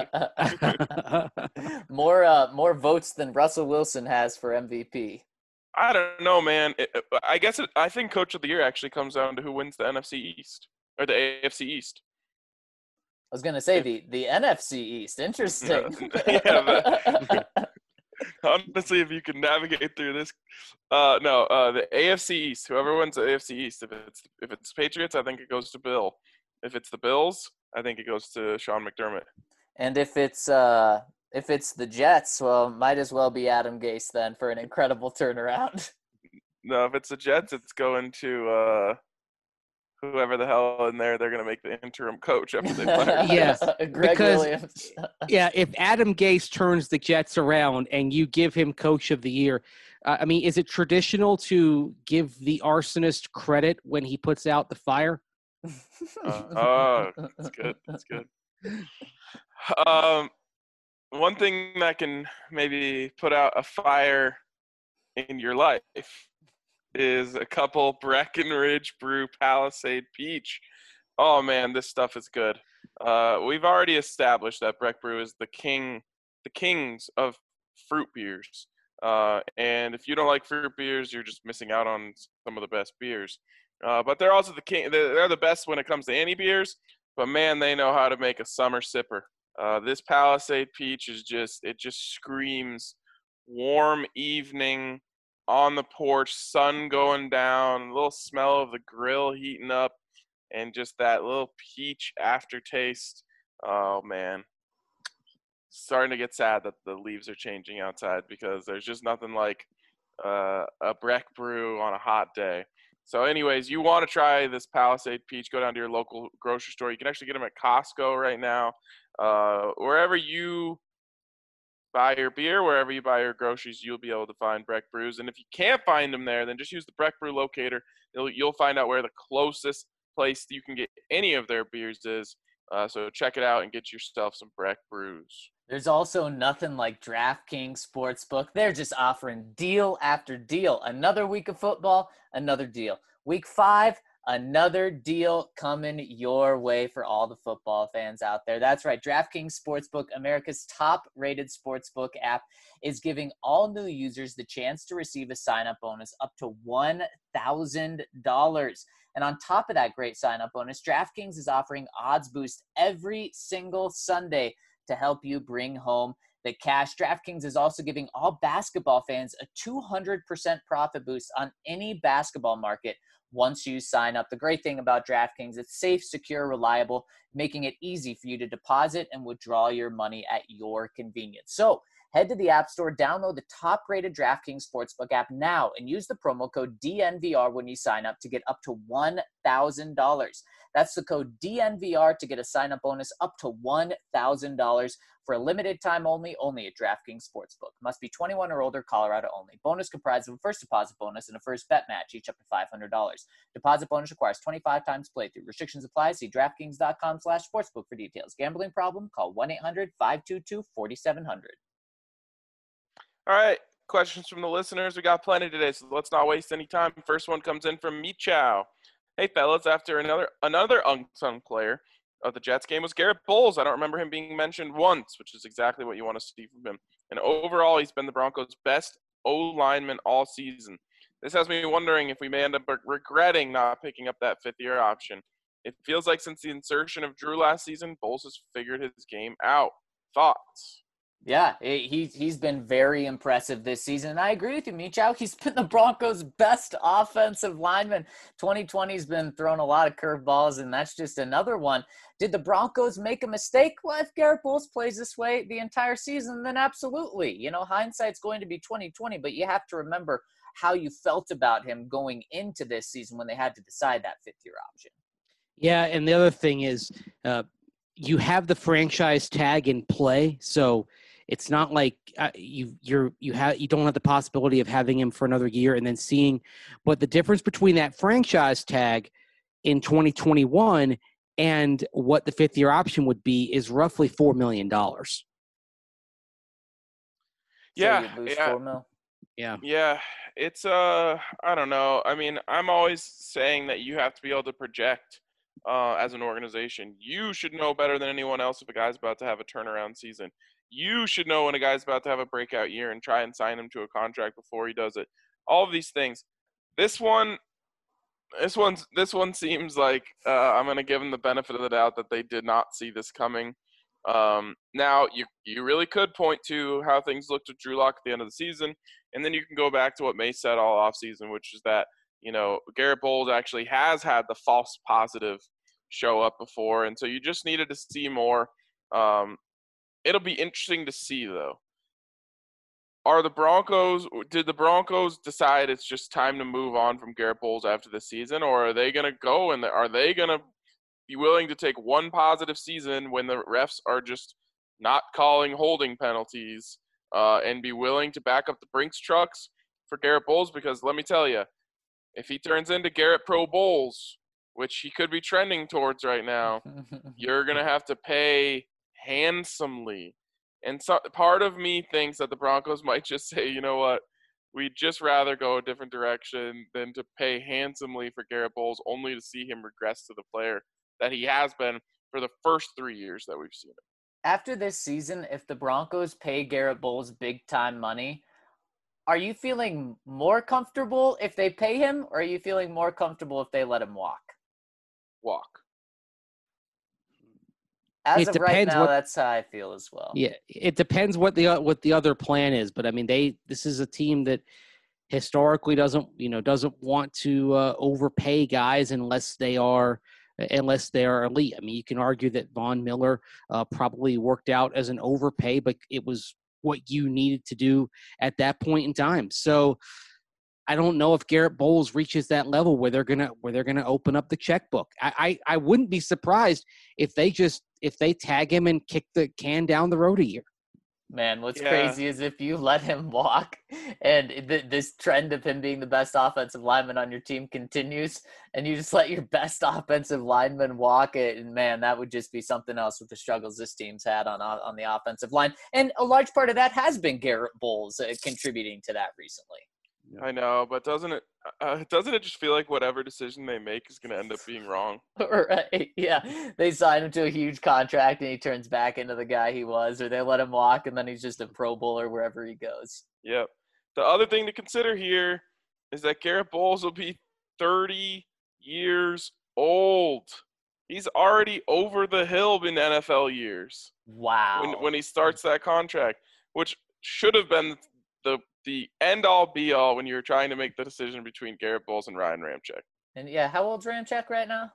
[SPEAKER 1] that many.
[SPEAKER 3] more uh, more votes than Russell Wilson has for M V P.
[SPEAKER 1] I don't know, man. It, I guess it, I think Coach of the Year actually comes down to who wins the N F C East or the A F C East.
[SPEAKER 3] I was gonna say the the N F C East. Interesting.
[SPEAKER 1] Yeah, Honestly, if you can navigate through this, uh, no, uh, the A F C East. Whoever wins the A F C East, if it's if it's Patriots, I think it goes to Bill. If it's the Bills, I think it goes to Sean McDermott.
[SPEAKER 3] And if it's uh if it's the Jets, well, might as well be Adam Gase then for an incredible turnaround.
[SPEAKER 1] No, if it's the Jets, it's going to uh, whoever the hell in there. They're going to make the interim coach after they fire.
[SPEAKER 4] Yeah,
[SPEAKER 3] Greg
[SPEAKER 4] because-
[SPEAKER 3] Williams.
[SPEAKER 4] Yeah, if Adam Gase turns the Jets around and you give him Coach of the Year, uh, I mean, is it traditional to give the arsonist credit when he puts out the fire?
[SPEAKER 1] Uh, oh, that's good. That's good. Um, one thing that can maybe put out a fire in your life is a couple Breckenridge Brew Palisade Peach. Oh man, this stuff is good. Uh, we've already established that Breck Brew is the king, the kings of fruit beers. Uh, and if you don't like fruit beers, you're just missing out on some of the best beers. Uh, but they're also the king. They're the best when it comes to any beers. But man, they know how to make a summer sipper. Uh, this Palisade Peach is just, it just screams warm evening on the porch, sun going down, a little smell of the grill heating up, and just that little peach aftertaste. Oh, man. Starting to get sad that the leaves are changing outside because there's just nothing like uh, a Breck Brew on a hot day. So anyways, you want to try this Palisade Peach, go down to your local grocery store. You can actually get them at Costco right now. Uh, wherever you buy your beer, wherever you buy your groceries, you'll be able to find Breck Brews. And if you can't find them there, then just use the Breck Brew locator. You'll, you'll find out where the closest place you can get any of their beers is. Uh, so check it out and get yourself some Breck Brews.
[SPEAKER 3] There's also nothing like DraftKings Sportsbook. They're just offering deal after deal. Another week of football, another deal. Week five, another deal coming your way for all the football fans out there. That's right. DraftKings Sportsbook, America's top-rated sportsbook app, is giving all new users the chance to receive a sign-up bonus up to one thousand dollars. And on top of that great sign-up bonus, DraftKings is offering Odds Boost every single Sunday to help you bring home the cash. DraftKings is also giving all basketball fans a two hundred percent profit boost on any basketball market once you sign up. The great thing about DraftKings, it's safe, secure, reliable, making it easy for you to deposit and withdraw your money at your convenience. So head to the App Store, download the top-rated DraftKings Sportsbook app now, and use the promo code D N V R when you sign up to get up to one thousand dollars. That's the code D N V R to get a sign-up bonus up to one thousand dollars for a limited time only, only at DraftKings Sportsbook. Must be twenty-one or older, Colorado only. Bonus comprised of a first deposit bonus and a first bet match, each up to five hundred dollars. Deposit bonus requires twenty-five times playthrough. Restrictions apply. See DraftKings.com slash sportsbook for details. Gambling problem? Call one eight hundred five two two four seven zero zero.
[SPEAKER 1] All right, questions from the listeners. We got plenty today, so let's not waste any time. First one comes in from Michow. Hey, fellas, after another another unsung player of the Jets game was Garrett Bowles. I don't remember him being mentioned once, which is exactly what you want to see from him. And overall, he's been the Broncos' best O-lineman all season. This has me wondering if we may end up regretting not picking up that fifth-year option. It feels like since the insertion of Drew last season, Bowles has figured his game out. Thoughts?
[SPEAKER 3] Yeah, he, he's been very impressive this season. And I agree with you, Michow. He's been the Broncos' best offensive lineman. twenty twenty's been throwing a lot of curveballs, and that's just another one. Did the Broncos make a mistake? Well, if Garrett Bowles plays this way the entire season, then absolutely. You know, hindsight's going to be twenty twenty, but you have to remember how you felt about him going into this season when they had to decide that fifth-year option.
[SPEAKER 4] Yeah, and the other thing is uh, you have the franchise tag in play, so – it's not like uh, you you're you have you don't have the possibility of having him for another year and then seeing, but the difference between that franchise tag in twenty twenty-one and what the fifth year option would be is roughly four million dollars.
[SPEAKER 1] Yeah,
[SPEAKER 3] so
[SPEAKER 1] yeah,
[SPEAKER 3] four mil?
[SPEAKER 4] yeah,
[SPEAKER 1] yeah. It's uh, I don't know. I mean, I'm always saying that you have to be able to project uh, as an organization. You should know better than anyone else if a guy's about to have a turnaround season. You should know when a guy's about to have a breakout year and try and sign him to a contract before he does it. All of these things. This one, this one's this one seems like uh, I'm going to give him the benefit of the doubt that they did not see this coming. Um, now, you you really could point to how things looked with Drew Lock at the end of the season, and then you can go back to what May said all offseason, which is that, you know, Garrett Bowles actually has had the false positive show up before, and so you just needed to see more. Um, It'll be interesting to see, though. Are the Broncos – did the Broncos decide it's just time to move on from Garrett Bowles after the season, or are they going to go and are they going to be willing to take one positive season when the refs are just not calling holding penalties uh, and be willing to back up the Brinks trucks for Garrett Bowles? Because let me tell you, if he turns into Garrett Pro Bowles which he could be trending towards right now, you're going to have to pay handsomely. And so part of me thinks that the Broncos might just say, you know what, we'd just rather go a different direction than to pay handsomely for Garrett Bowles, only to see him regress to the player that he has been for the first three years that we've seen him.
[SPEAKER 3] After this season, if the Broncos pay Garrett Bowles big-time money, are you feeling more comfortable if they pay him, or are you feeling more comfortable if they let him walk?
[SPEAKER 1] Walk.
[SPEAKER 3] As
[SPEAKER 4] It
[SPEAKER 3] of right
[SPEAKER 4] depends
[SPEAKER 3] now,
[SPEAKER 4] what-
[SPEAKER 3] that's how I feel as well.
[SPEAKER 4] Yeah, it depends what the what the other plan is, but I mean, they this is a team that historically doesn't you know doesn't want to uh, overpay guys unless they are unless they are elite. I mean, you can argue that Von Miller uh, probably worked out as an overpay, but it was what you needed to do at that point in time. So I don't know if Garrett Bowles reaches that level where they're gonna where they're gonna open up the checkbook. I, I I wouldn't be surprised if they just if they tag him and kick the can down the road a year.
[SPEAKER 3] Man, what's
[SPEAKER 1] Yeah.
[SPEAKER 3] crazy is if you let him walk and th- this trend of him being the best offensive lineman on your team continues and you just let your best offensive lineman walk it, and man, that would just be something else with the struggles this team's had on on the offensive line. And a large part of that has been Garrett Bowles uh, contributing to that recently.
[SPEAKER 1] I know, but doesn't it uh, doesn't it just feel like whatever decision they make is going to end up being wrong?
[SPEAKER 3] Right, yeah. They sign him to a huge contract and he turns back into the guy he was, or they let him walk and then he's just a Pro Bowler wherever he goes.
[SPEAKER 1] Yep. The other thing to consider here is that Garrett Bowles will be thirty years old. He's already over the hill in N F L years
[SPEAKER 3] Wow.
[SPEAKER 1] when when he starts that contract, which should have been the the end all be all when you were trying to make the decision between Garrett Bowles and Ryan Ramczyk.
[SPEAKER 3] And yeah, how old's Ramczyk right now?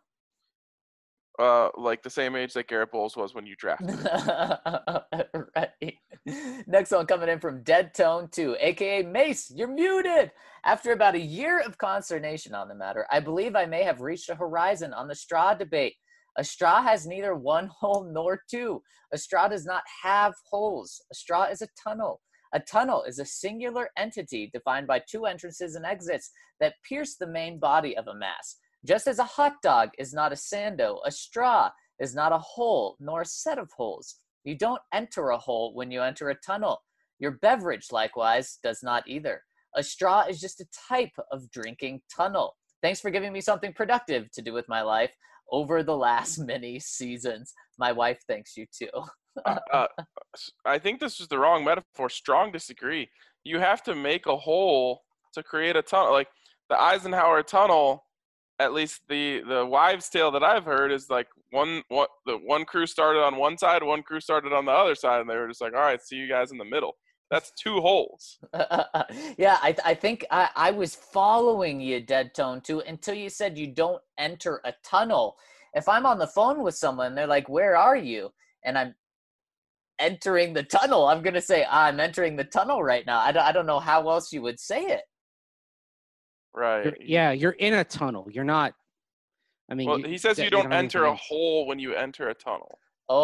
[SPEAKER 1] Uh, like the same age that Garrett Bowles was when you drafted him.
[SPEAKER 3] Right. Next one coming in from Dead Tone two, aka Mace. You're muted. After about a year of consternation on the matter, I believe I may have reached a horizon on the straw debate. A straw has neither one hole nor two. A straw does not have holes. A straw is a tunnel. A tunnel is a singular entity defined by two entrances and exits that pierce the main body of a mass. Just as a hot dog is not a sando, a straw is not a hole nor a set of holes. You don't enter a hole when you enter a tunnel. Your beverage, likewise, does not either. A straw is just a type of drinking tunnel. Thanks for giving me something productive to do with my life over the last many seasons. My wife thanks you too.
[SPEAKER 1] uh, I think this is the wrong metaphor. Strong disagree. You have to make a hole to create a tunnel. Like the Eisenhower Tunnel, at least the the wives' tale that I've heard is like one what the one crew started on one side, one crew started on the other side, and they were just like, all right, see you guys in the middle. That's two holes.
[SPEAKER 3] Yeah, I I think I, I was following you, Dead Tone, too, until you said you don't enter a tunnel. If I'm on the phone with someone, they're like, where are you? And I'm entering the tunnel. I'm going to say, I'm entering the tunnel right now. I don't, I don't know how else you would say it.
[SPEAKER 1] Right.
[SPEAKER 4] You're, yeah, you're in a tunnel. You're not. I mean,
[SPEAKER 1] Well,
[SPEAKER 4] you-
[SPEAKER 1] he says
[SPEAKER 4] that-
[SPEAKER 1] you don't
[SPEAKER 4] have
[SPEAKER 1] enter a
[SPEAKER 4] anything-
[SPEAKER 1] hole when you enter a tunnel.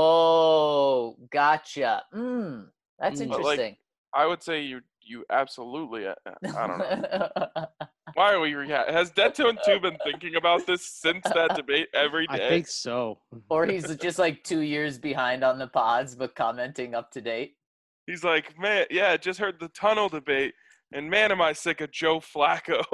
[SPEAKER 3] Oh, gotcha. Mm, that's
[SPEAKER 4] Mm.
[SPEAKER 1] But, like,
[SPEAKER 3] interesting.
[SPEAKER 1] I would say you you absolutely. uh, I don't know. Why are we? Reha- Has Dead Tone two been thinking about this since that debate every
[SPEAKER 4] I
[SPEAKER 1] day?
[SPEAKER 4] think so.
[SPEAKER 3] Or he's just like two years behind on the pods, but commenting up to date.
[SPEAKER 1] He's like, man, yeah, just heard the tunnel debate, and man, am I sick of Joe Flacco.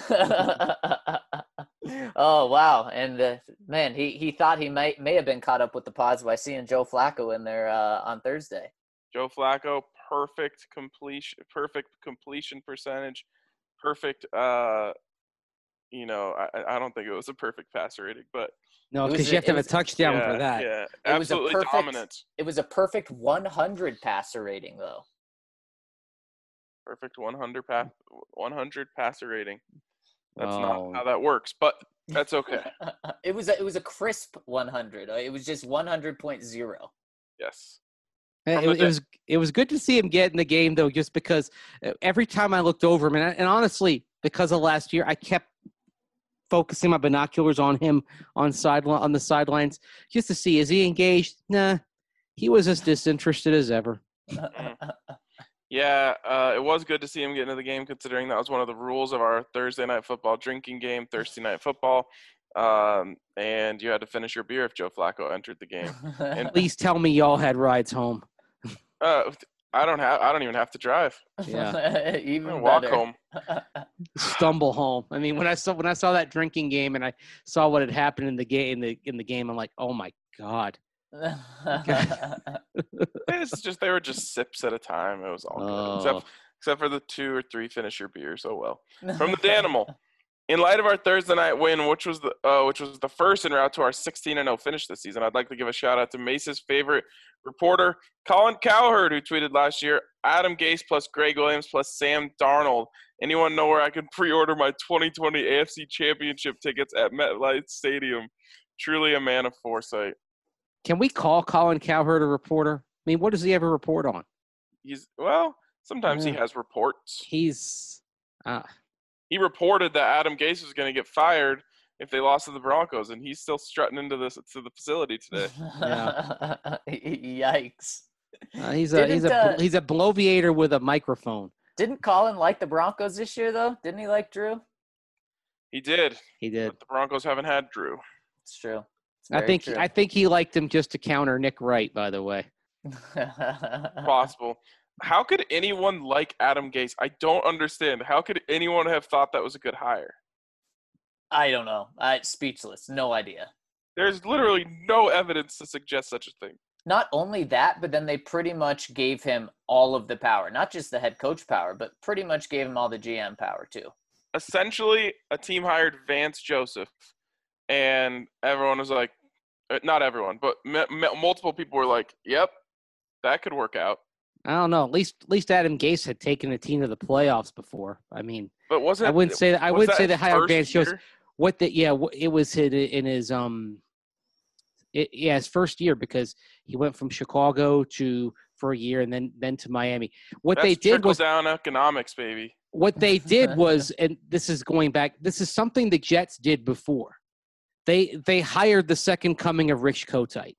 [SPEAKER 3] Oh wow! And uh, man, he, he thought he might may have been caught up with the pods by seeing Joe Flacco in there uh, on Thursday.
[SPEAKER 1] Joe Flacco, perfect completion, perfect completion percentage, perfect. Uh, you know, I, I don't think it was a perfect passer rating, but
[SPEAKER 4] No,
[SPEAKER 3] It was
[SPEAKER 4] because
[SPEAKER 3] a-
[SPEAKER 4] you have to
[SPEAKER 3] it
[SPEAKER 4] have a
[SPEAKER 3] was-
[SPEAKER 4] touchdown
[SPEAKER 1] yeah,
[SPEAKER 4] for that.
[SPEAKER 1] yeah,
[SPEAKER 3] It was a
[SPEAKER 1] absolutely
[SPEAKER 3] perfect-
[SPEAKER 1] dominant,
[SPEAKER 3] It was a perfect one hundred passer rating though.
[SPEAKER 1] perfect one hundred pass, one hundred passer rating. That's
[SPEAKER 4] Oh.
[SPEAKER 1] not how that works, but that's okay.
[SPEAKER 3] It was a, it was a crisp one hundred. Uh, It was just one hundred point zero.
[SPEAKER 1] Yes.
[SPEAKER 4] Uh,
[SPEAKER 1] From
[SPEAKER 4] It,
[SPEAKER 1] the
[SPEAKER 4] it
[SPEAKER 1] de-
[SPEAKER 4] was it was good to see him get in the game though, just because uh, every time I looked over him, and, I- and honestly, because of last year, I kept focusing my binoculars on him on sideline on the sidelines just to see, is he engaged? Nah, he was as disinterested as ever.
[SPEAKER 1] Yeah, uh, it was good to see him get into the game, considering that was one of the rules of our Thursday night football drinking game, Thursday night football. Um, and you had to finish your beer if Joe Flacco entered the game. And
[SPEAKER 4] Please tell me y'all had rides home.
[SPEAKER 1] uh, I don't have. I don't even have to drive.
[SPEAKER 4] Yeah.
[SPEAKER 3] Even
[SPEAKER 1] I walk
[SPEAKER 3] better.
[SPEAKER 1] home.
[SPEAKER 4] Stumble home. I mean, when I saw when I saw that drinking game and I saw what had happened in the game in the in the game, I'm like, oh my god.
[SPEAKER 1] It's just they were just sips at a time. It was all good,
[SPEAKER 4] Oh.
[SPEAKER 1] except except for the two or three finish your beers. Oh well. From the Danimal. In light of our Thursday night win, which was the uh, which was the first en route to our sixteen and oh finish this season, I'd like to give a shout out to Mace's favorite reporter, Colin Cowherd, who tweeted last year, Adam Gase plus Greg Williams plus Sam Darnold. Anyone know where I can pre-order my twenty twenty A F C Championship tickets at MetLife Stadium? Truly a man of foresight.
[SPEAKER 4] Can we call Colin Cowherd a reporter? I mean, what does he ever report on?
[SPEAKER 1] He's well, sometimes
[SPEAKER 4] Yeah.
[SPEAKER 1] he has reports.
[SPEAKER 4] He's uh,
[SPEAKER 1] He reported that Adam Gase was going to get fired if they lost to the Broncos, and he's still strutting into this to the facility today.
[SPEAKER 3] Yikes.
[SPEAKER 4] uh, he's a he's
[SPEAKER 3] Didn't,
[SPEAKER 4] a
[SPEAKER 3] uh,
[SPEAKER 4] he's a bloviator with a microphone.
[SPEAKER 3] Didn't Colin like the Broncos this year, though? Didn't he like Drew?
[SPEAKER 1] He did,
[SPEAKER 4] He did.
[SPEAKER 1] but the Broncos haven't had Drew.
[SPEAKER 3] It's true. It's
[SPEAKER 4] I
[SPEAKER 3] very
[SPEAKER 4] think
[SPEAKER 3] true.
[SPEAKER 4] I think he liked him just to counter Nick Wright. By the way,
[SPEAKER 1] Possible. How could anyone like Adam Gase? I don't understand. How could anyone have thought that was a good hire?
[SPEAKER 3] I don't know. I speechless. No idea.
[SPEAKER 1] There's literally no evidence to suggest such a thing.
[SPEAKER 3] Not only that, but then they pretty much gave him all of the power. Not just the head coach power, but pretty much gave him all the G M power, too.
[SPEAKER 1] Essentially, a team hired Vance Joseph, and everyone was like, uh, not everyone, but m- m- multiple people were like, yep, that could work out.
[SPEAKER 4] I don't know. At least at least Adam Gase had taken a team to the playoffs before. I mean,
[SPEAKER 1] But wasn't
[SPEAKER 4] I wouldn't say that. I
[SPEAKER 1] was
[SPEAKER 4] would say
[SPEAKER 1] his
[SPEAKER 4] that hired
[SPEAKER 1] first
[SPEAKER 4] Vance Joseph.
[SPEAKER 1] year?
[SPEAKER 4] What the yeah, wh- it was his, in his um, it, yeah, his first year because he went from Chicago to for a year and then then to Miami. What
[SPEAKER 1] That's
[SPEAKER 4] they did was
[SPEAKER 1] trickle-down economics, baby.
[SPEAKER 4] what they did was, and this is going back. This is something the Jets did before. They they hired the second coming of Rich Kotite.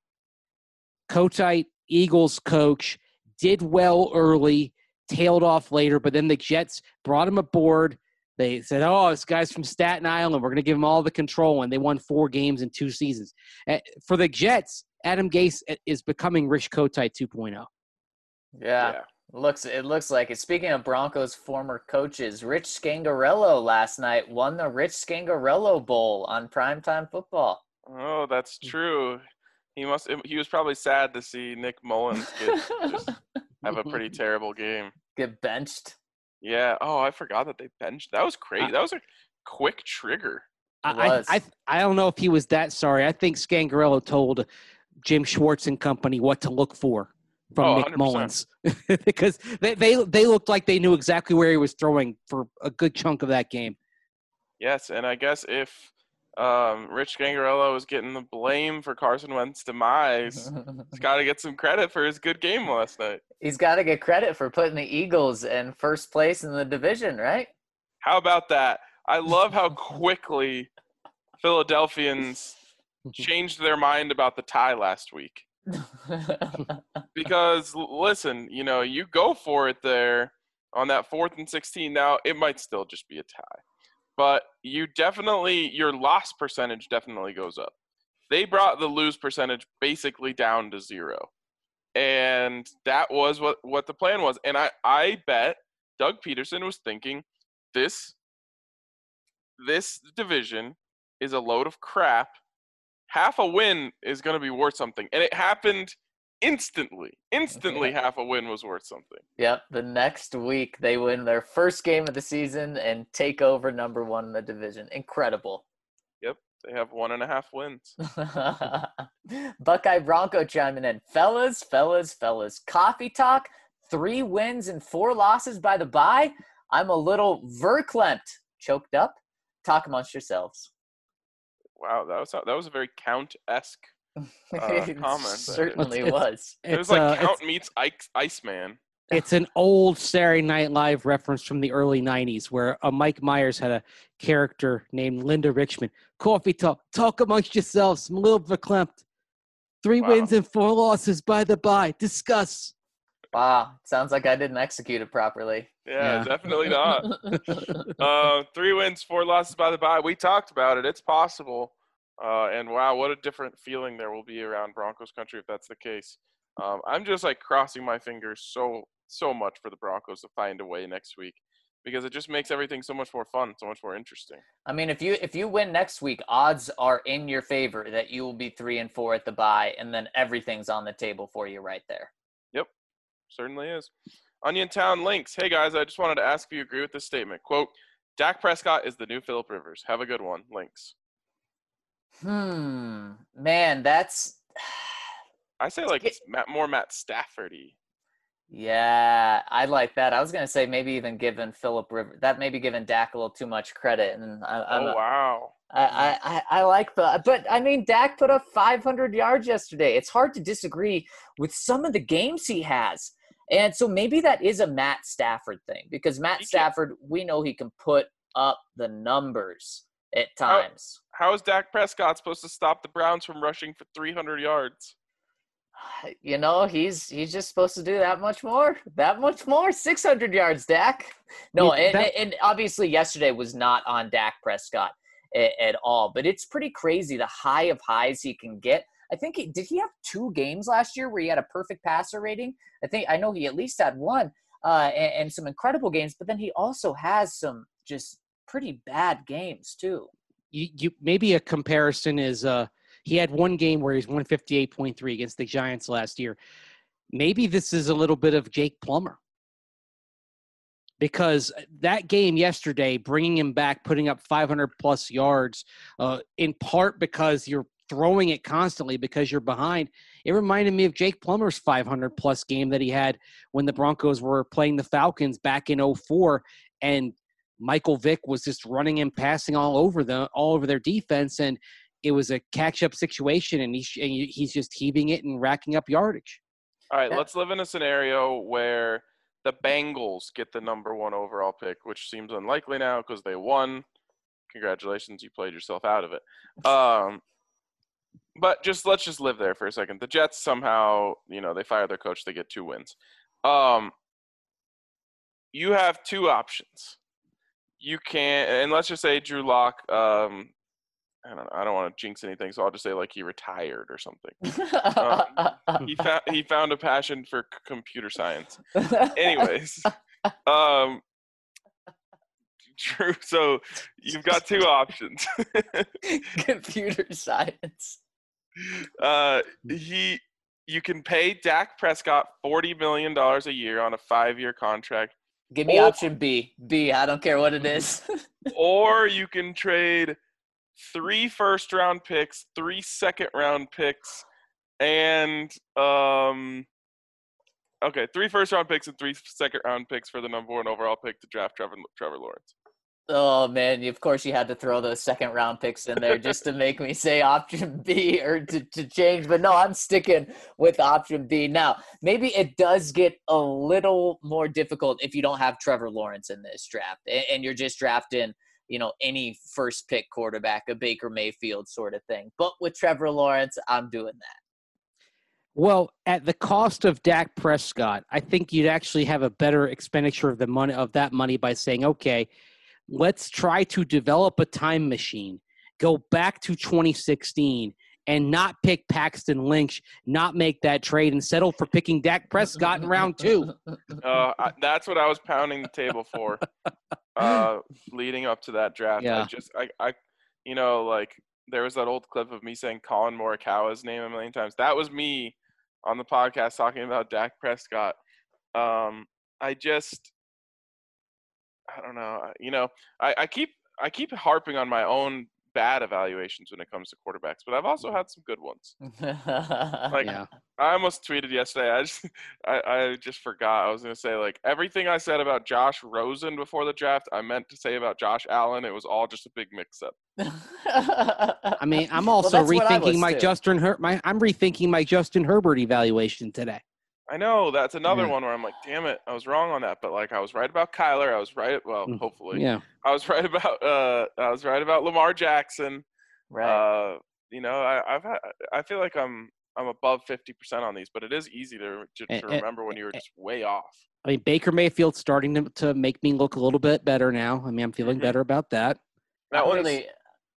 [SPEAKER 4] Kotite, Eagles coach, did well early, tailed off later, but then the Jets brought him aboard. They said, oh, this guy's from Staten Island. We're going to give him all the control, and they won four games in two seasons. Uh, For the Jets, Adam Gase is becoming Rich Kotite two point oh.
[SPEAKER 3] Yeah.
[SPEAKER 1] Yeah.
[SPEAKER 3] Looks it looks like it. Speaking of Broncos former coaches, Rich Scangarello last night won the Rich Scangarello Bowl on Primetime Football.
[SPEAKER 1] Oh, that's true. He must. He was probably sad to see Nick Mullins get, just have a pretty terrible game.
[SPEAKER 3] Get benched.
[SPEAKER 1] Yeah. Oh, I forgot that they benched. That was crazy.
[SPEAKER 4] I-
[SPEAKER 1] That was a quick trigger.
[SPEAKER 4] I,
[SPEAKER 3] was.
[SPEAKER 4] I, I I don't know if he was that sorry. I think Scangarello told Jim Schwartz and company what to look for from
[SPEAKER 1] Oh,
[SPEAKER 4] Nick
[SPEAKER 1] one hundred percent.
[SPEAKER 4] Mullins because they, they they looked like they knew exactly where he was throwing for a good chunk of that game.
[SPEAKER 1] Yes, and I guess if um, Rich Gangarello is getting the blame for Carson Wentz's demise, he's got to get some credit for his good game last night.
[SPEAKER 3] He's got to get credit for putting the Eagles in first place in the division, right?
[SPEAKER 1] How about that? I love how quickly Philadelphians changed their mind about the tie last week. Because, l- listen, you know, you go for it there on that fourth and sixteen. Now, it might still just be a tie. But you definitely, your loss percentage definitely goes up. They brought the lose percentage basically down to zero. And that was what, what the plan was. And I, I bet Doug Peterson was thinking, this, this division is a load of crap. Half a win is going to be worth something. And it happened instantly. Instantly, half a win was worth something.
[SPEAKER 3] Yep. The next week, they win their first game of the season and take over number one in the division. Incredible.
[SPEAKER 1] They have one and a half wins.
[SPEAKER 3] Buckeye Bronco chiming in. Fellas, fellas, fellas. Coffee talk. Three wins and four losses by the bye. I'm a little verklempt. Choked up. Talk amongst yourselves.
[SPEAKER 1] Wow, that was that was a very Count-esque. Uh,
[SPEAKER 3] It
[SPEAKER 1] comment.
[SPEAKER 3] certainly
[SPEAKER 4] It's-
[SPEAKER 3] was.
[SPEAKER 1] It was
[SPEAKER 4] It's,
[SPEAKER 1] like
[SPEAKER 4] uh,
[SPEAKER 1] Count
[SPEAKER 4] it's,
[SPEAKER 1] meets Ice, Iceman.
[SPEAKER 4] it's an old Saturday Night Live reference from the early nineties where uh, Mike Myers had a character named Linda Richmond. Coffee talk. Talk amongst yourselves. I'm a little verklempt. Three
[SPEAKER 1] Wow.
[SPEAKER 4] wins and four losses by the bye. Discuss.
[SPEAKER 3] Wow. Sounds like I didn't execute it properly.
[SPEAKER 1] Yeah,
[SPEAKER 4] Yeah.
[SPEAKER 1] definitely not. Uh, three wins, four losses by the bye. We talked about it. It's possible. Uh, and wow, what a different feeling there will be around Broncos country if that's the case. Um, I'm just like crossing my fingers so so much for the Broncos to find a way next week because it just makes everything so much more fun, so much more interesting.
[SPEAKER 3] I mean, if you if you win next week, odds are in your favor that you will be three and four at the bye, and then everything's on the table for you right there.
[SPEAKER 1] Yep, certainly is. Onion Town links. Hey guys, I just wanted to ask if you agree with this statement. Quote, Dak Prescott is the new Phillip Rivers. Have a good one. Links.
[SPEAKER 3] Hmm, man, that's
[SPEAKER 1] I say like it's Matt, more Matt Stafford-y.
[SPEAKER 3] Yeah, I like that. I was gonna say maybe even giving Phillip Rivers that maybe giving Dak a little too much credit, and I, I'm
[SPEAKER 1] Oh
[SPEAKER 3] a,
[SPEAKER 1] wow.
[SPEAKER 3] I, I, I I like the, but I mean Dak put up five hundred yards yesterday. It's hard to disagree with some of the games he has, and so maybe that is a Matt Stafford thing because Matt
[SPEAKER 1] He can-
[SPEAKER 3] Stafford, we know he can put up the numbers at times.
[SPEAKER 1] How is Dak Prescott supposed to stop the Browns from rushing for three hundred yards?
[SPEAKER 3] You know, he's he's just supposed to do that much more, that much more. six hundred yards, Dak. No,
[SPEAKER 4] Yeah,
[SPEAKER 3] and,
[SPEAKER 4] that-
[SPEAKER 3] and obviously yesterday was not on Dak Prescott at, at all, but it's pretty crazy the high of highs he can get. I think he, did he have two games last year where he had a perfect passer rating? I think I know he at least had one, uh, and, and some incredible games, but then he also has some just pretty bad games too.
[SPEAKER 4] You, you maybe a comparison is uh he had one game where he's one fifty-eight point three against the Giants last year. Maybe this is a little bit of Jake Plummer. Because that game yesterday, bringing him back, putting up five hundred plus yards, uh, in part because you're throwing it constantly because you're behind. It reminded me of Jake Plummer's five hundred plus game that he had when the Broncos were playing the Falcons back in oh four, and Michael Vick was just running and passing all over them, all over their defense, and it was a catch-up situation, and, he, and he's just heaving it and racking up yardage.
[SPEAKER 1] All right,
[SPEAKER 3] Yeah.
[SPEAKER 1] let's live in a scenario where the Bengals get the number one overall pick, which seems unlikely now because they won. Congratulations, you played yourself out of it. Um, but just let's just live there for a second. The Jets somehow, you know, they fire their coach, they get two wins. Um, you have two options. You can, and let's just say Drew Lock. Um, I don't know. I don't want to jinx anything, so I'll just say like he retired or something. He found he found a passion for c- computer science. Anyways, um, Drew. So you've got two options.
[SPEAKER 3] Computer science.
[SPEAKER 1] uh, he, you can pay Dak Prescott forty million dollars a year on a five-year contract,
[SPEAKER 3] Give me
[SPEAKER 1] Or-
[SPEAKER 3] option B. B, I don't care what it is.
[SPEAKER 1] or you can trade three first-round picks, three second-round picks, and um. Okay, three first-round picks and three second-round picks for the number one overall pick to draft Trevor Trevor Lawrence.
[SPEAKER 3] Oh, man, of course you had to throw those second-round picks in there just to make me say option B or to, to change. But, no, I'm sticking with option B. Now, maybe it does get a little more difficult if you don't have Trevor Lawrence in this draft and, and you're just drafting, you know, any first-pick quarterback, a Baker Mayfield sort of thing. But with Trevor Lawrence, I'm doing that.
[SPEAKER 4] Well, at the cost of Dak Prescott, I think you'd actually have a better expenditure of the money of that money by saying, okay, let's try to develop a time machine, go back to twenty sixteen, and not pick Paxton Lynch, not make that trade, and settle for picking Dak Prescott in round two.
[SPEAKER 1] Uh, I, that's what I was pounding the table for, uh, leading up to that draft.
[SPEAKER 4] Yeah.
[SPEAKER 1] I just, I, I, you know, like there was that old clip of me saying Colin Morikawa's name a million times. That was me on the podcast talking about Dak Prescott. Um, I just, I don't know. You know, I, I keep, I keep harping on my own bad evaluations when it comes to quarterbacks, but I've also had some good ones. Like,
[SPEAKER 4] Yeah.
[SPEAKER 1] I almost tweeted yesterday. I just, I, I just forgot. I was gonna say like everything I said about Josh Rosen before the draft, I meant to say about Josh Allen. It was all just a big mix-up.
[SPEAKER 4] I mean, I'm
[SPEAKER 3] Well,
[SPEAKER 4] also
[SPEAKER 3] that's what I was
[SPEAKER 4] rethinking my
[SPEAKER 3] too.
[SPEAKER 4] Justin Her- my I'm rethinking my Justin Herbert evaluation today.
[SPEAKER 1] I know that's another
[SPEAKER 4] Yeah.
[SPEAKER 1] one where I'm like, damn it, I was wrong on that. But like, I was right about Kyler. I was right. Well,
[SPEAKER 4] Mm,
[SPEAKER 1] hopefully,
[SPEAKER 4] Yeah.
[SPEAKER 1] I was right about. Uh, I was right about Lamar Jackson.
[SPEAKER 3] Right.
[SPEAKER 1] Uh, you know, I, I've had. I feel like I'm. I'm above fifty percent on these, but it is easy to to,
[SPEAKER 4] Eh,
[SPEAKER 1] to
[SPEAKER 4] eh,
[SPEAKER 1] remember when you were just way off.
[SPEAKER 4] I mean, Baker Mayfield's starting to, to make me look a little bit better now. I mean, I'm feeling
[SPEAKER 1] Mhm.
[SPEAKER 4] better about that.
[SPEAKER 1] That
[SPEAKER 3] Not
[SPEAKER 1] one's
[SPEAKER 3] really.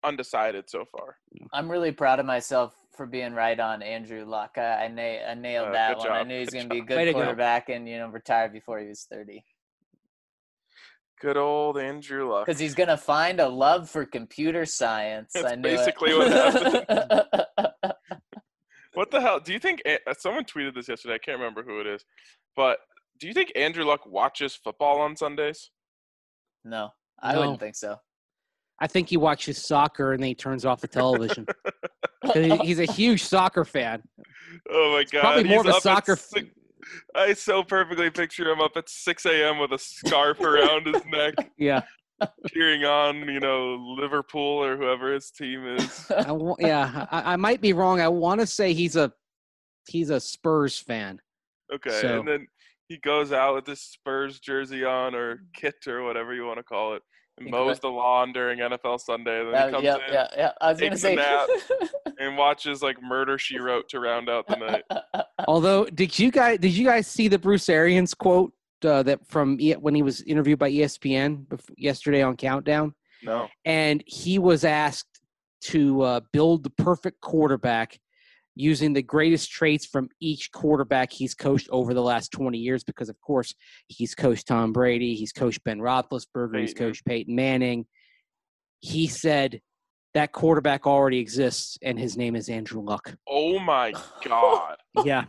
[SPEAKER 1] undecided so far.
[SPEAKER 3] I'm really proud of myself for being right on Andrew Luck. I, I, na- I nailed
[SPEAKER 1] Uh,
[SPEAKER 3] that
[SPEAKER 1] good
[SPEAKER 3] one. I
[SPEAKER 1] job,
[SPEAKER 3] knew he was
[SPEAKER 1] good
[SPEAKER 3] going to be a
[SPEAKER 1] job.
[SPEAKER 3] good
[SPEAKER 4] Way to go.
[SPEAKER 3] quarterback and, you know, retire before he was thirty.
[SPEAKER 1] Good old Andrew Luck.
[SPEAKER 3] Because he's going to find a love for computer science.
[SPEAKER 1] That's
[SPEAKER 3] I knew
[SPEAKER 1] basically
[SPEAKER 3] it.
[SPEAKER 1] what happened. What the hell? Do you think uh, – someone tweeted this yesterday. I can't remember who it is. But do you think Andrew Luck watches football on Sundays?
[SPEAKER 3] No, I
[SPEAKER 4] No.
[SPEAKER 3] wouldn't think so.
[SPEAKER 4] I think he watches soccer and then he turns off the television. 'Cause he- He's a huge soccer fan.
[SPEAKER 1] Oh, my God.
[SPEAKER 4] Probably more
[SPEAKER 1] He's
[SPEAKER 4] of a
[SPEAKER 1] up at
[SPEAKER 4] soccer.
[SPEAKER 1] six- I so perfectly picture him up at six a.m. with a scarf around his neck,
[SPEAKER 4] Yeah.
[SPEAKER 1] cheering on, you know, Liverpool or whoever his team is.
[SPEAKER 4] I wa- yeah. I, I might be wrong. I want to say he's a he's a Spurs fan.
[SPEAKER 1] Okay,
[SPEAKER 4] So-
[SPEAKER 1] and then he goes out with his Spurs jersey on or kit or whatever you want to call it and
[SPEAKER 3] He
[SPEAKER 1] mows
[SPEAKER 3] gra-
[SPEAKER 1] the lawn during N F L Sunday. And then
[SPEAKER 3] Uh,
[SPEAKER 1] he comes
[SPEAKER 3] yeah,
[SPEAKER 1] in
[SPEAKER 3] yeah, yeah. I was going to
[SPEAKER 1] takes a
[SPEAKER 3] say.
[SPEAKER 1] nap. and watches, like, Murder, She Wrote to round out the night.
[SPEAKER 4] Although, did you guys did you guys see the Bruce Arians quote uh, that from e- when he was interviewed by E S P N bef- yesterday on Countdown?
[SPEAKER 1] No.
[SPEAKER 4] And he was asked to uh, build the perfect quarterback using the greatest traits from each quarterback he's coached over the last twenty years, because, of course, he's coached Tom Brady, he's coached Ben Roethlisberger, he's
[SPEAKER 1] Peyton.
[SPEAKER 4] coached Peyton Manning. He said that quarterback already exists, and his name is Andrew Luck.
[SPEAKER 1] Oh, my God.
[SPEAKER 4] Yeah.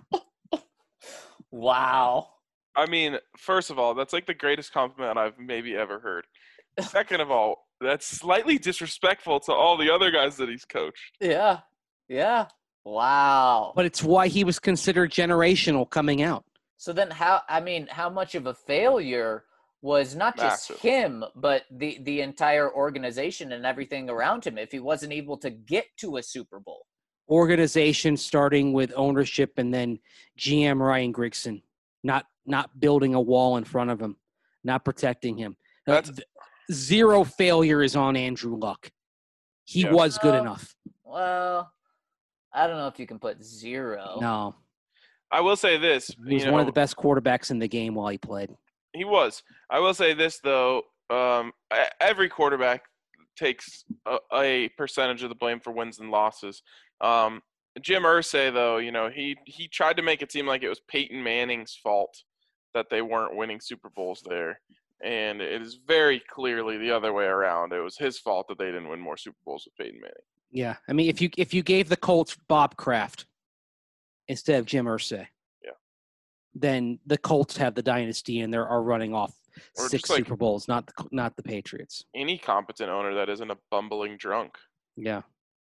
[SPEAKER 3] Wow.
[SPEAKER 1] I mean, first of all, that's like the greatest compliment I've maybe ever heard. Second of all, that's slightly disrespectful to all the other guys that he's coached.
[SPEAKER 3] Yeah. Yeah. Wow.
[SPEAKER 4] But it's why he was considered generational coming out.
[SPEAKER 3] So then how, I mean, how much of a failure was not just
[SPEAKER 1] Massive.
[SPEAKER 3] him, but the, the entire organization and everything around him if he wasn't able to get to a Super Bowl?
[SPEAKER 4] Organization starting with ownership and then G M Ryan Grigson, not not building a wall in front of him, not protecting him. Uh,
[SPEAKER 1] That's-
[SPEAKER 4] th- Zero failure is on Andrew Luck. He
[SPEAKER 1] Yeah.
[SPEAKER 4] was good
[SPEAKER 3] Uh,
[SPEAKER 4] enough.
[SPEAKER 3] Well, I don't know if you can put zero.
[SPEAKER 4] No,
[SPEAKER 1] I will say this.
[SPEAKER 4] he was
[SPEAKER 1] you
[SPEAKER 4] one
[SPEAKER 1] know,
[SPEAKER 4] of the best quarterbacks in the game while he played.
[SPEAKER 1] He was. I will say this, though. Um, e- every quarterback takes a, a percentage of the blame for wins and losses. Um, Jim Irsay, though, you know, he, he tried to make it seem like it was Peyton Manning's fault that they weren't winning Super Bowls there. And it is very clearly the other way around. It was his fault that they didn't win more Super Bowls with Peyton Manning.
[SPEAKER 4] Yeah, I mean, if you if you gave the Colts Bob Kraft instead of Jim Irsay,
[SPEAKER 1] Yeah.
[SPEAKER 4] then the Colts have the dynasty and they are running off
[SPEAKER 1] Or
[SPEAKER 4] six
[SPEAKER 1] just like-
[SPEAKER 4] Super Bowls, not the not the Patriots.
[SPEAKER 1] Any competent owner that isn't a bumbling drunk.
[SPEAKER 4] Yeah.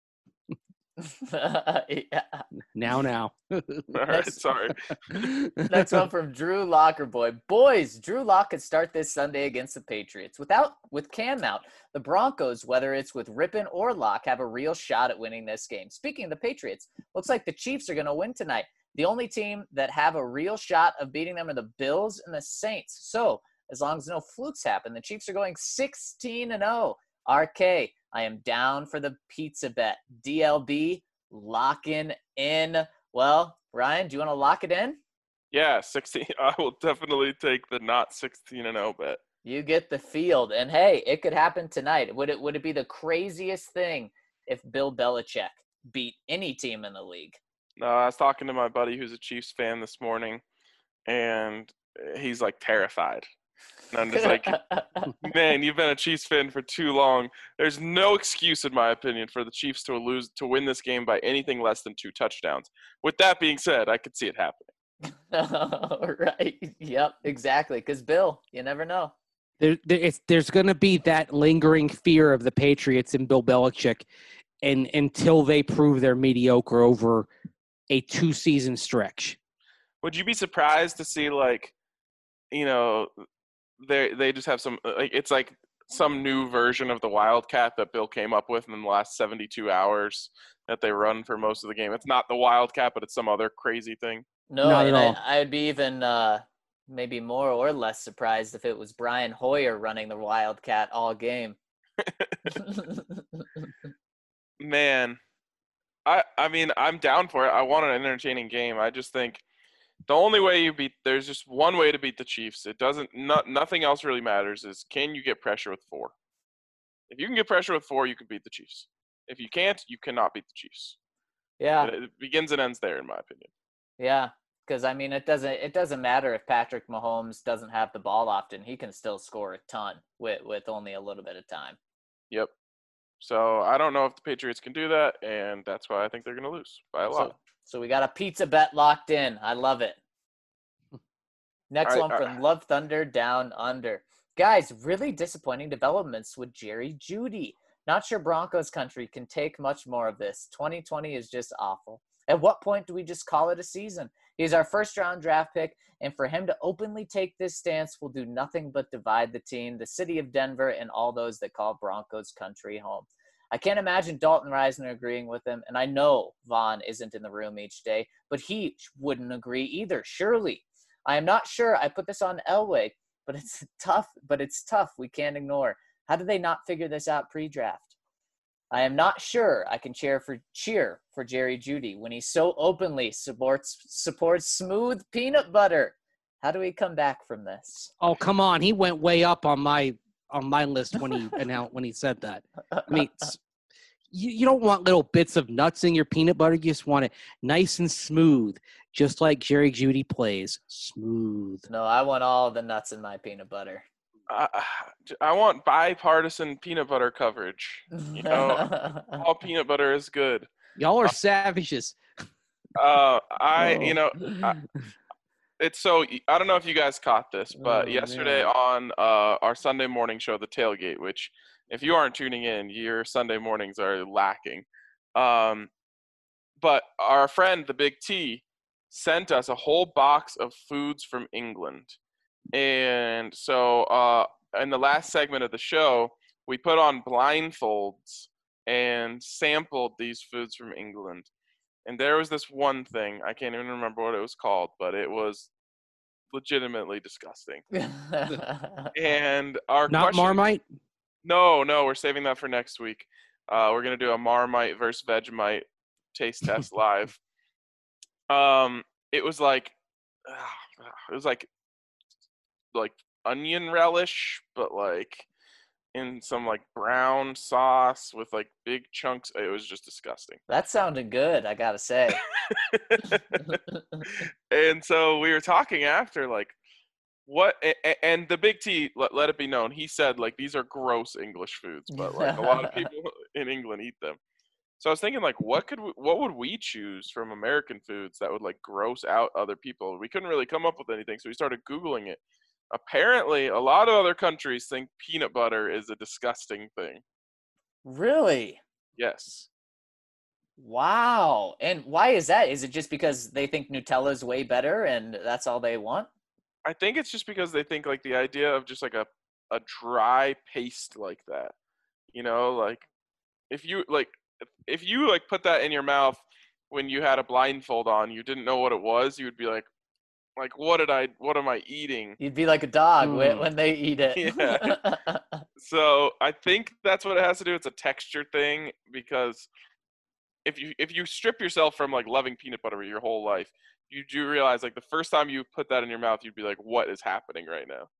[SPEAKER 3] Yeah.
[SPEAKER 4] Now, now.
[SPEAKER 1] All right,
[SPEAKER 3] Next-
[SPEAKER 1] sorry.
[SPEAKER 3] Next one from Drew Lockerboy. Boys, Drew Lock could start this Sunday against the Patriots. Without with Cam out, the Broncos, whether it's with Rippon or Lock, have a real shot at winning this game. Speaking of the Patriots, looks like the Chiefs are going to win tonight. The only team that have a real shot of beating them are the Bills and the Saints. So, as long as no flukes happen, the Chiefs are going sixteen and oh. R K, I am down for the pizza bet. D L B, locking in. Well, Ryan, do you want to lock it in?
[SPEAKER 1] Yeah, sixteen. I will definitely take the not sixteen and oh bet.
[SPEAKER 3] You get the field. And hey, it could happen tonight. Would it would it be the craziest thing if Bill Belichick beat any team in the league?
[SPEAKER 1] No, I was talking to my buddy who's a Chiefs fan this morning, and he's like terrified. And I'm just like, man, you've been a Chiefs fan for too long. There's no excuse, in my opinion, for the Chiefs to lose to win this game by anything less than two touchdowns. With that being said, I could see it happening.
[SPEAKER 3] Right. Yep, exactly. Because Bill, you never know.
[SPEAKER 4] There, there, it's, there's going to be that lingering fear of the Patriots and Bill Belichick, and until they prove they're mediocre over a two-season stretch.
[SPEAKER 1] Would you be surprised to see, like, you know, they they just have some like it's like some new version of the Wildcat that Bill came up with in the last seventy-two hours that they run for most of the game? It's not the Wildcat, but it's some other crazy thing.
[SPEAKER 3] No,
[SPEAKER 4] Not
[SPEAKER 3] and
[SPEAKER 4] at
[SPEAKER 3] I,
[SPEAKER 4] all.
[SPEAKER 3] I'd be even uh, maybe more or less surprised if it was Brian Hoyer running the Wildcat all game.
[SPEAKER 1] Man, I I mean, I'm down for it. I want an entertaining game. I just think the only way you beat there's just one way to beat the Chiefs. It doesn't not nothing else really matters is can you get pressure with four? If you can get pressure with four, you can beat the Chiefs. If you can't, you cannot beat the Chiefs.
[SPEAKER 3] Yeah.
[SPEAKER 1] It, it begins and ends there, in my opinion.
[SPEAKER 3] Yeah. Because, I mean, it doesn't it doesn't matter if Patrick Mahomes doesn't have the ball often. He can still score a ton with, with only a little bit of time.
[SPEAKER 1] Yep. So I don't know if the Patriots can do that, and that's why I think they're going to lose by a lot.
[SPEAKER 3] So, so we got a pizza bet locked in. I love it. Next
[SPEAKER 1] I,
[SPEAKER 3] one from
[SPEAKER 1] I,
[SPEAKER 3] Love Thunder Down Under. Guys, really disappointing developments with Jerry Jeudy. Not sure Broncos country can take much more of this. twenty twenty is just awful. At what point do we just call it a season? He's our first round draft pick, and for him to openly take this stance will do nothing but divide the team, the city of Denver, and all those that call Broncos country home. I can't imagine Dalton Reisner agreeing with him, and I know Vaughn isn't in the room each day, but he wouldn't agree either, surely. I am not sure I put this on Elway, but it's tough, but it's tough. We can't ignore. How did they not figure this out pre-draft? I am not sure I can cheer for cheer for Jerry Jeudy when he so openly supports supports smooth peanut butter. How do we come back from this?
[SPEAKER 4] Oh, come on. He went way up on my on my list when he announced when he said that. I mean, you, you don't want little bits of nuts in your peanut butter. You just want it nice and smooth, just like Jerry Jeudy plays. Smooth.
[SPEAKER 3] No, I want all the nuts in my peanut butter.
[SPEAKER 1] I, I want bipartisan peanut butter coverage. You know, all peanut butter is good.
[SPEAKER 4] Y'all are savages.
[SPEAKER 1] Uh, I,
[SPEAKER 3] Oh.
[SPEAKER 1] you know, I, it's so, I don't know if you guys caught this, but
[SPEAKER 3] Oh,
[SPEAKER 1] yesterday
[SPEAKER 3] man.
[SPEAKER 1] on uh, our Sunday morning show, The Tailgate, which if you aren't tuning in, your Sunday mornings are lacking. Um, but our friend, the Big T, sent us a whole box of foods from England. And so uh, in the last segment of the show, we put on blindfolds and sampled these foods from England. And there was this one thing, I can't even remember what it was called, but it was legitimately disgusting. And our
[SPEAKER 4] Not
[SPEAKER 1] question,
[SPEAKER 4] Marmite?
[SPEAKER 1] no, no, we're saving that for next week. Uh, we're going to do a Marmite versus Vegemite taste test live. Um, it was like, uh, it was like, like onion relish, but like in some like brown sauce with like big chunks. It was just disgusting.
[SPEAKER 3] That sounded good, I gotta say.
[SPEAKER 1] And so we were talking after, like, what, and the Big T, let, let it be known, he said, like, these are gross English foods, but like a lot of people in England eat them. So I was thinking, like, what could we, what would we choose from American foods that would like gross out other people? We couldn't really come up with anything, so we started Googling it. Apparently, a lot of other countries think peanut butter is a disgusting thing.
[SPEAKER 3] Really?
[SPEAKER 1] Yes.
[SPEAKER 3] Wow. And why is that? Is it just because they think Nutella is way better and that's all they want?
[SPEAKER 1] I think it's just because they think like the idea of just like a, a dry paste like that, you know, like if you like, if you like put that in your mouth when you had a blindfold on, you didn't know what it was, you would be like, like, what did I, what am I eating?
[SPEAKER 3] You'd be like a dog when,
[SPEAKER 4] Mm.
[SPEAKER 3] when they eat it.
[SPEAKER 1] Yeah. So I think that's what it has to do. It's a texture thing, because if you if you strip yourself from like loving peanut butter your whole life, you do realize like the first time you put that in your mouth, you'd be like, what is happening right now?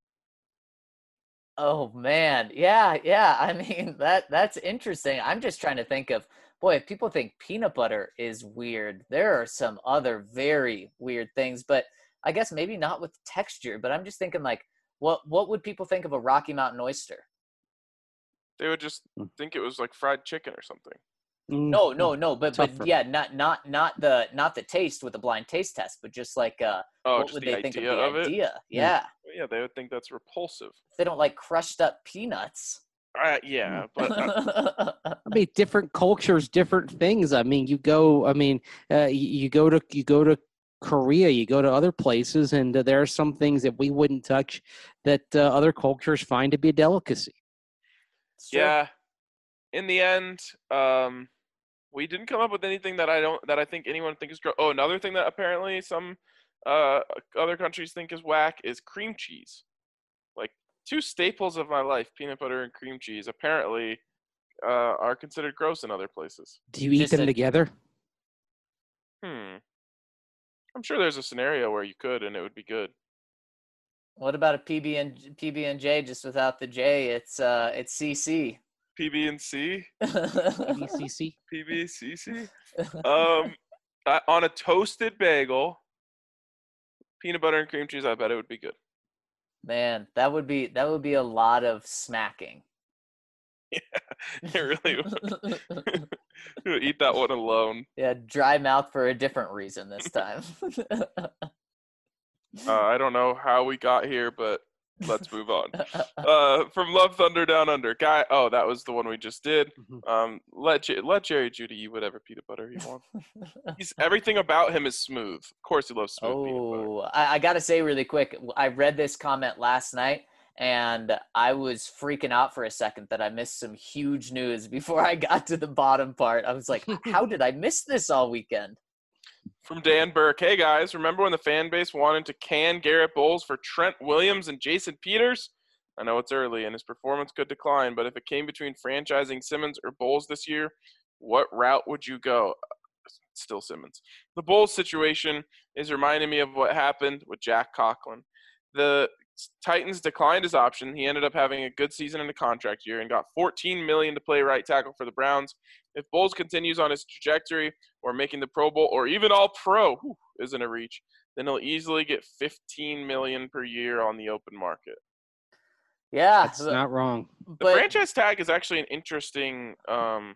[SPEAKER 3] Oh man. Yeah, yeah. I mean, that that's interesting. I'm just trying to think of, boy, if people think peanut butter is weird, there are some other very weird things, but I guess maybe not with texture, but I'm just thinking like what what would people think of a Rocky Mountain oyster?
[SPEAKER 1] They would just think it was like fried chicken or something.
[SPEAKER 4] Mm.
[SPEAKER 3] No, no, no, but but
[SPEAKER 4] Tougher.
[SPEAKER 3] yeah, not not not the not the taste with a blind taste test, but just like uh
[SPEAKER 1] Oh,
[SPEAKER 3] what
[SPEAKER 1] just
[SPEAKER 3] would
[SPEAKER 1] the
[SPEAKER 3] they think of
[SPEAKER 1] idea
[SPEAKER 3] the
[SPEAKER 1] of it?
[SPEAKER 3] idea? Yeah.
[SPEAKER 1] Yeah, they would think that's repulsive.
[SPEAKER 3] If they don't like crushed up peanuts.
[SPEAKER 1] Uh, yeah, but uh,
[SPEAKER 4] I mean, different cultures, different things. I mean, you go. I mean, uh, you, you go to you go to Korea, you go to other places, and uh, there are some things that we wouldn't touch that uh, other cultures find to be a delicacy.
[SPEAKER 3] It's true.
[SPEAKER 1] yeah, in the end, um, we didn't come up with anything that I don't that I think anyone think is gross. Oh, another thing that apparently some uh, other countries think is whack is cream cheese. Like two staples of my life, peanut butter and cream cheese, apparently uh, are considered gross in other places.
[SPEAKER 4] Do you eat
[SPEAKER 3] Just
[SPEAKER 4] them
[SPEAKER 3] a-
[SPEAKER 4] together?
[SPEAKER 1] Hmm. I'm sure there's a scenario where you could and it would be good.
[SPEAKER 3] What about a P B and P B and J just without the J? It's uh it's C C.
[SPEAKER 1] P B and C,
[SPEAKER 4] P B C C.
[SPEAKER 1] P B C C. Um, I, on a toasted bagel, peanut butter and cream cheese. I bet it would be good.
[SPEAKER 3] Man, that would be that would be a lot of smacking.
[SPEAKER 1] Yeah, it really would. Eat that one alone.
[SPEAKER 3] Yeah, dry mouth for a different reason this time.
[SPEAKER 1] Uh, I don't know how we got here, but let's move on. Uh, from Love Thunder Down Under, guy. Oh, that was the one we just did.
[SPEAKER 4] Mhm.
[SPEAKER 1] Um, let J- let Jerry Judy eat whatever peanut butter he wants. He's everything about him is smooth. Of course, he loves smooth peanut butter.
[SPEAKER 3] Oh, I, I got to say really quick, I read this comment last night, and I was freaking out for a second that I missed some huge news before I got to the bottom part. I was like, how did I miss this all weekend?
[SPEAKER 1] From Dan Burke, hey guys, remember when the fan base wanted to can Garrett Bowles for Trent Williams and Jason Peters? I know it's early and his performance could decline, but if it came between franchising Simmons or Bowles this year, what route would you go? Still Simmons. The Bowles situation is reminding me of what happened with Jack Conklin. The Titans declined his option. He ended up having a good season in the contract year and got fourteen million dollars to play right tackle for the Browns. If Bowles continues on his trajectory or making the Pro Bowl or even All-Pro whew, isn't a reach, then he'll easily get fifteen million dollars per year on the open market.
[SPEAKER 3] Yeah,
[SPEAKER 4] That's not wrong.
[SPEAKER 1] The
[SPEAKER 3] but
[SPEAKER 1] franchise tag is actually an interesting um,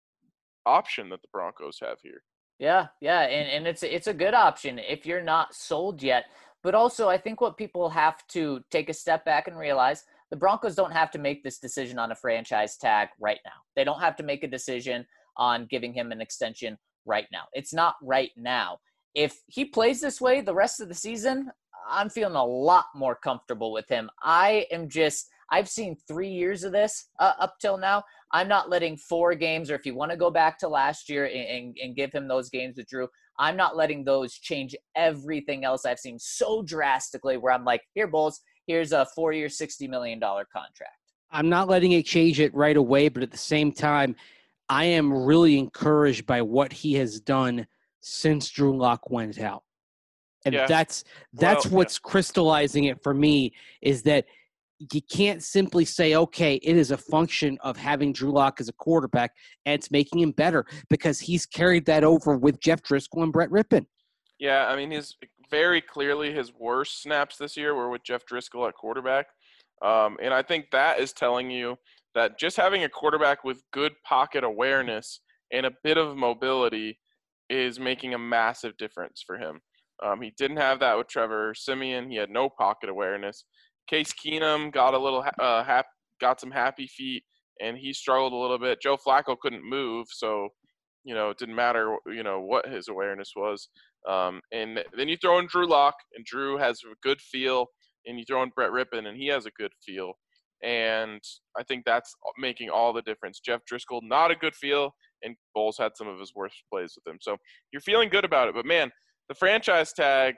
[SPEAKER 1] option that the Broncos have here.
[SPEAKER 3] yeah, yeah, and, and it's it's a good option if you're not sold yet. But also, I think what people have to take a step back and realize, the Broncos don't have to make this decision on a franchise tag right now. They don't have to make a decision on giving him an extension right now. It's not right now. If he plays this way the rest of the season, I'm feeling a lot more comfortable with him. I am just, I've seen three years of this uh, up till now. I'm not letting four games, or if you want to go back to last year and, and, and give him those games with Drew, I'm not letting those change everything else I've seen so drastically where I'm like, here, Bulls, here's a four-year, sixty million dollars contract.
[SPEAKER 4] I'm not letting it change it right away, but at the same time, I am really encouraged by what he has done since Drew Lock went out. And
[SPEAKER 1] Yeah.
[SPEAKER 4] that's that's
[SPEAKER 1] Well,
[SPEAKER 4] what's crystallizing it for me, is that you can't simply say, okay, it is a function of having Drew Lock as a quarterback, and it's making him better, because he's carried that over with Jeff Driscoll and Brett Rippon.
[SPEAKER 1] Yeah, I mean, his very clearly his worst snaps this year were with Jeff Driscoll at quarterback. Um, and I think that is telling you that just having a quarterback with good pocket awareness and a bit of mobility is making a massive difference for him. Um, he didn't have that with Trevor Siemian. He had no pocket awareness. Case Keenum got a little uh, hap- got some happy feet, and he struggled a little bit. Joe Flacco couldn't move, so you know it didn't matter you know what his awareness was. Um, and then you throw in Drew Lock, and Drew has a good feel, and you throw in Brett Rippon, and he has a good feel. And I think that's making all the difference. Jeff Driscoll, not a good feel, and Bowles had some of his worst plays with him. So you're feeling good about it. But, man, the franchise tag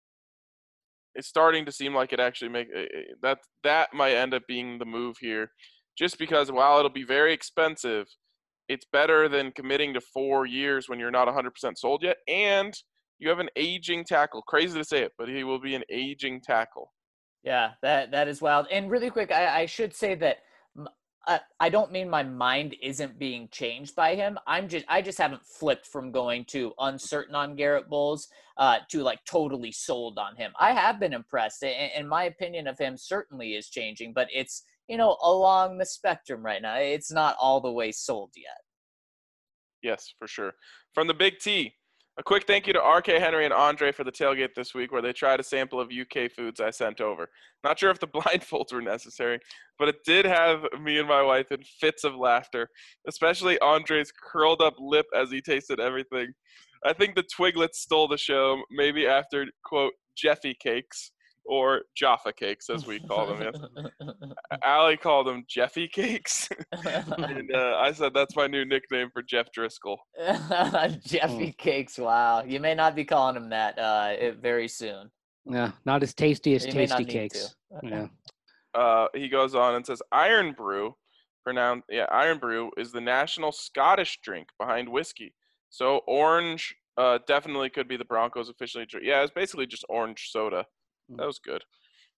[SPEAKER 1] is starting to seem like it actually make – that that might end up being the move here, just because while it'll be very expensive, it's better than committing to four years when you're not one hundred percent sold yet. And you have an aging tackle. Crazy to say it, but he will be an aging tackle.
[SPEAKER 3] Yeah, that that is wild. And really quick, I, I should say that uh, I don't mean my mind isn't being changed by him. I'm just I just haven't flipped from going to uncertain on Garrett Bowles uh, to like totally sold on him. I have been impressed, and, and my opinion of him certainly is changing. But it's you know along the spectrum right now. It's not all the way sold yet.
[SPEAKER 1] Yes, for sure. From the Big T. A quick thank you to R K Henry and Andre for the tailgate this week, where they tried a sample of U K foods I sent over. Not sure if the blindfolds were necessary, but it did have me and my wife in fits of laughter, especially Andre's curled up lip as he tasted everything. I think the Twiglets stole the show, maybe after, quote, Jeffy cakes, or Jaffa cakes, as we call them. Yes. Allie called them Jeffy cakes. and uh, I said that's my new nickname for Jeff Driscoll.
[SPEAKER 3] Jeffy cakes, wow. You may not be calling him that uh, it, very soon.
[SPEAKER 4] Yeah, not as tasty as
[SPEAKER 3] You may not
[SPEAKER 4] Tasty
[SPEAKER 3] need
[SPEAKER 4] Cakes.
[SPEAKER 3] to.
[SPEAKER 4] Yeah.
[SPEAKER 1] Uh, he goes on and says, Iron Brew, pronounced, yeah, Iron Brew is the national Scottish drink behind whiskey. So orange uh, definitely could be the Broncos officially drink. Yeah, it's basically just orange soda. That was good.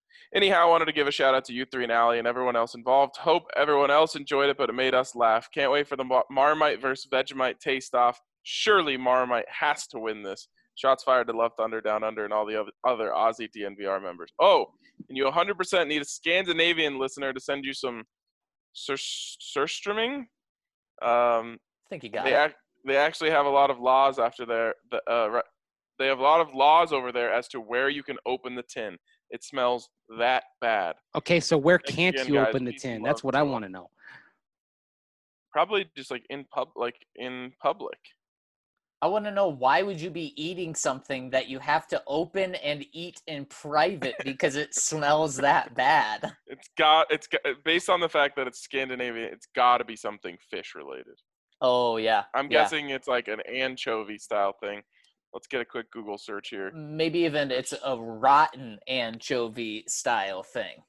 [SPEAKER 1] Anyhow, I wanted to give a shout out to you three and Allie and everyone else involved. Hope everyone else enjoyed it, but it made us laugh. Can't wait for the Marmite versus Vegemite taste-off. Surely Marmite has to win this. Shots fired to Love Thunder, Down Under, and all the other Aussie D N V R members. Oh, and you one hundred percent need a Scandinavian listener to send you some sur- surströmming. Um,
[SPEAKER 3] I think you got
[SPEAKER 1] they
[SPEAKER 3] it.
[SPEAKER 1] Ac- they actually have a lot of laws after their the uh, they have a lot of laws over there as to where you can open the tin. It smells that bad.
[SPEAKER 4] Okay, so where
[SPEAKER 1] Thanks
[SPEAKER 4] can't
[SPEAKER 1] again,
[SPEAKER 4] you
[SPEAKER 1] guys.
[SPEAKER 4] open the
[SPEAKER 1] Peace
[SPEAKER 4] tin?
[SPEAKER 1] and
[SPEAKER 4] That's
[SPEAKER 1] love
[SPEAKER 4] what I
[SPEAKER 1] to
[SPEAKER 4] want to know.
[SPEAKER 1] Probably just like in pub, like in public.
[SPEAKER 3] I want to know, why would you be eating something that you have to open and eat in private because it smells that bad?
[SPEAKER 1] It's got it's got, based on the fact that it's Scandinavian. It's got to be something fish related.
[SPEAKER 3] Oh yeah.
[SPEAKER 1] I'm
[SPEAKER 3] yeah.
[SPEAKER 1] guessing it's like an anchovy style thing. Let's get a quick Google search here.
[SPEAKER 3] Maybe even it's a rotten anchovy style thing.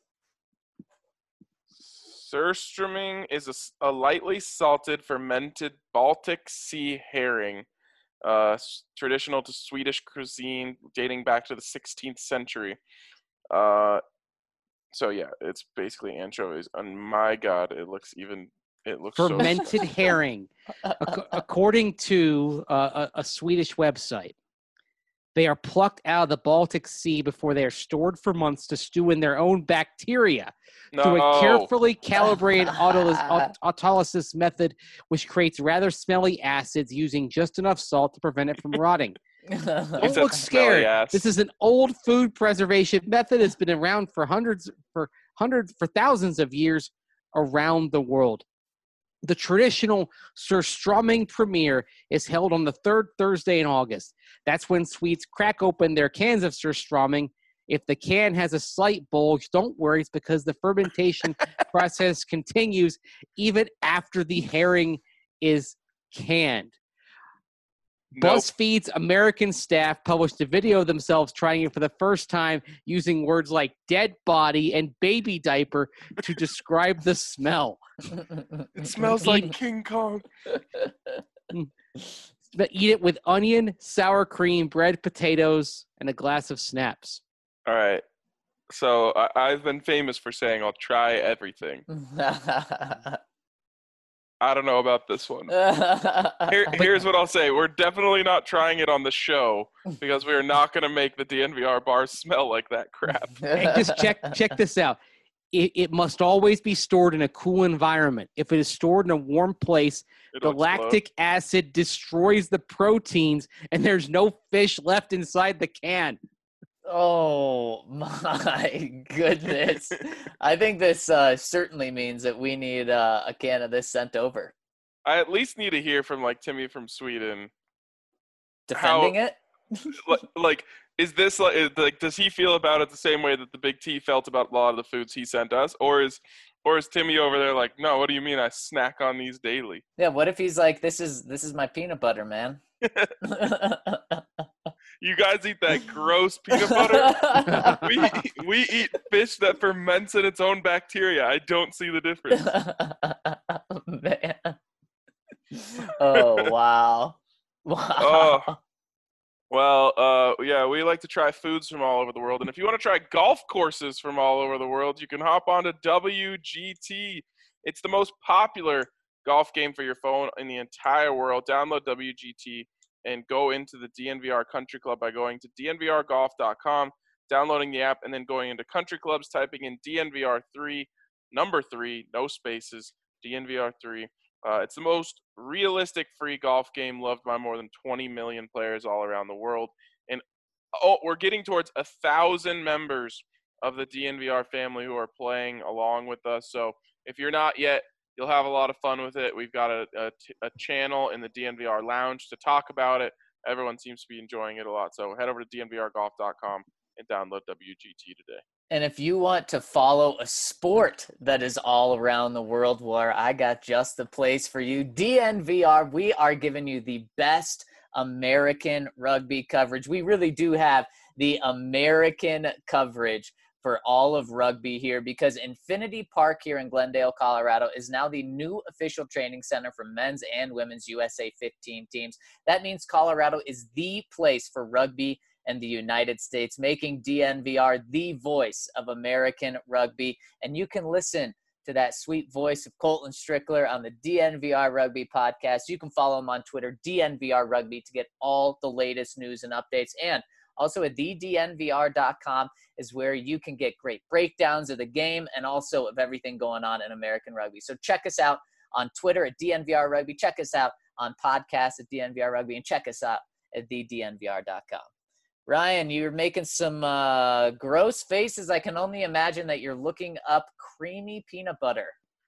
[SPEAKER 1] Surströmming is a, a lightly salted fermented Baltic Sea herring, uh, s- traditional to Swedish cuisine dating back to the sixteenth century. Uh, so yeah, it's basically anchovies. And my God, it looks even. It looks
[SPEAKER 4] Fermented
[SPEAKER 1] so
[SPEAKER 4] herring. Ac- according to uh, a, a Swedish website, they are plucked out of the Baltic Sea before they are stored for months to stew in their own bacteria
[SPEAKER 1] no.
[SPEAKER 4] through a carefully calibrated autolys- aut- autolysis method, which creates rather smelly acids using just enough salt to prevent it from rotting.
[SPEAKER 1] You
[SPEAKER 4] Don't
[SPEAKER 1] said
[SPEAKER 4] look
[SPEAKER 1] smelly
[SPEAKER 4] scared.
[SPEAKER 1] ass.
[SPEAKER 4] This is an old food preservation method that's been around for hundreds, for hundreds, for thousands of years around the world. The traditional Surströmming premiere is held on the third Thursday in August. That's when Swedes crack open their cans of Surströmming. If the can has a slight bulge, don't worry, it's because the fermentation process continues even after the herring is canned.
[SPEAKER 1] Nope.
[SPEAKER 4] BuzzFeed's American staff published a video of themselves trying it for the first time using words like dead body and baby diaper to describe the smell.
[SPEAKER 1] It smells like King Kong.
[SPEAKER 4] But eat it with onion, sour cream, bread, potatoes, and a glass of schnapps.
[SPEAKER 1] All right. So I, I've been famous for saying I'll try everything. I don't know about this one. Here, here's what I'll say. We're definitely not trying it on the show because we are not going to make the D N V R bars smell like that crap.
[SPEAKER 4] And just check check this out. It, it must always be stored in a cool environment. If it is stored in a warm place,
[SPEAKER 1] It'll
[SPEAKER 4] the
[SPEAKER 1] explode.
[SPEAKER 4] lactic acid destroys the proteins, and there's no fish left inside the can.
[SPEAKER 3] Oh my goodness. I think this uh, certainly means that we need uh, a can of this sent over.
[SPEAKER 1] I at least need to hear from like Timmy from Sweden.
[SPEAKER 3] Defending
[SPEAKER 1] How-
[SPEAKER 3] it?
[SPEAKER 1] Like, like, is this like, is, like, does he feel about it the same way that the Big T felt about a lot of the foods he sent us, or is, or is Timmy over there like, no, what do you mean I snack on these daily?
[SPEAKER 3] Yeah, what if he's like, this is this is my peanut butter, man.
[SPEAKER 1] You guys eat that gross peanut butter? we we eat fish that ferments in its own bacteria. I don't see the difference.
[SPEAKER 3] Man. Oh wow. Wow.
[SPEAKER 1] Oh. Well, uh, yeah, we like to try foods from all over the world. And if you want to try golf courses from all over the world, you can hop on to W G T. It's the most popular golf game for your phone in the entire world. Download W G T and go into the D N V R Country Club by going to D N V R golf dot com, downloading the app, and then going into Country Clubs, typing in D N V R three, number three, no spaces, D N V R three. Uh, it's the most realistic free golf game loved by more than twenty million players all around the world. And oh, we're getting towards a thousand members of the D N V R family who are playing along with us. So if you're not yet, you'll have a lot of fun with it. We've got a, a, a channel in the D N V R lounge to talk about it. Everyone seems to be enjoying it a lot. So head over to D N V R golf dot com and download W G T today.
[SPEAKER 3] And if you want to follow a sport that is all around the world, where I got just the place for you, D N V R, we are giving you the best American rugby coverage. We really do have the American coverage for all of rugby here, because Infinity Park here in Glendale, Colorado is now the new official training center for men's and women's U S A fifteen teams. That means Colorado is the place for rugby and the United States, making D N V R the voice of American rugby. And you can listen to that sweet voice of Colton Strickler on the D N V R Rugby podcast. You can follow him on Twitter, D N V R Rugby, to get all the latest news and updates. And also at the D N V R dot com is where you can get great breakdowns of the game and also of everything going on in American rugby. So check us out on Twitter at D N V R Rugby. Check us out on podcasts at D N V R Rugby, and check us out at the D N V R dot com. Ryan, you're making some uh, gross faces. I can only imagine that you're looking up creamy peanut butter.